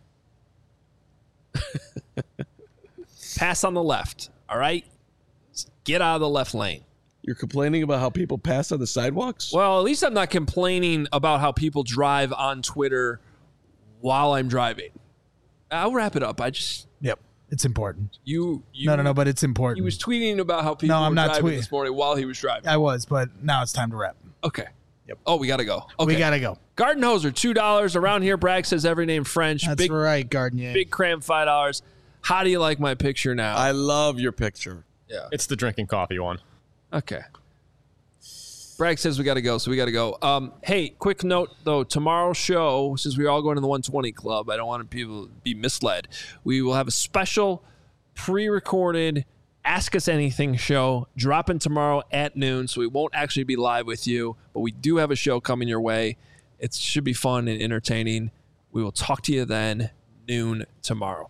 Pass on the left, all right? Get out of the left lane. You're complaining about how people pass on the sidewalks? Well, at least I'm not complaining about how people drive on Twitter while I'm driving. I'll wrap it up. I just Yep. It's important. you you No, no, no, but it's important. he was tweeting about how people No, I'm were not driving tweeting. this morning while he was driving. I was, but now it's time to wrap. Okay. Yep. Oh, we gotta go. Okay. We gotta go. Garden Hoser, two dollars. Around here, Bragg says every name French. That's big right, Gardenier. big cram, five dollars. How do you like my picture now? I love your picture. yeah. It's the drinking coffee one. Okay. Bragg says we got to go, so we got to go. Um, hey, quick note, though. Tomorrow's show, since we're all going to the one twenty Club, I don't want people to be misled. We will have a special pre-recorded Ask Us Anything show dropping tomorrow at noon, so we won't actually be live with you, but we do have a show coming your way. It should be fun and entertaining. We will talk to you then, noon tomorrow.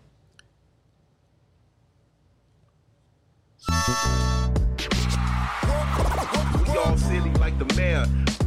We all silly like the mayor.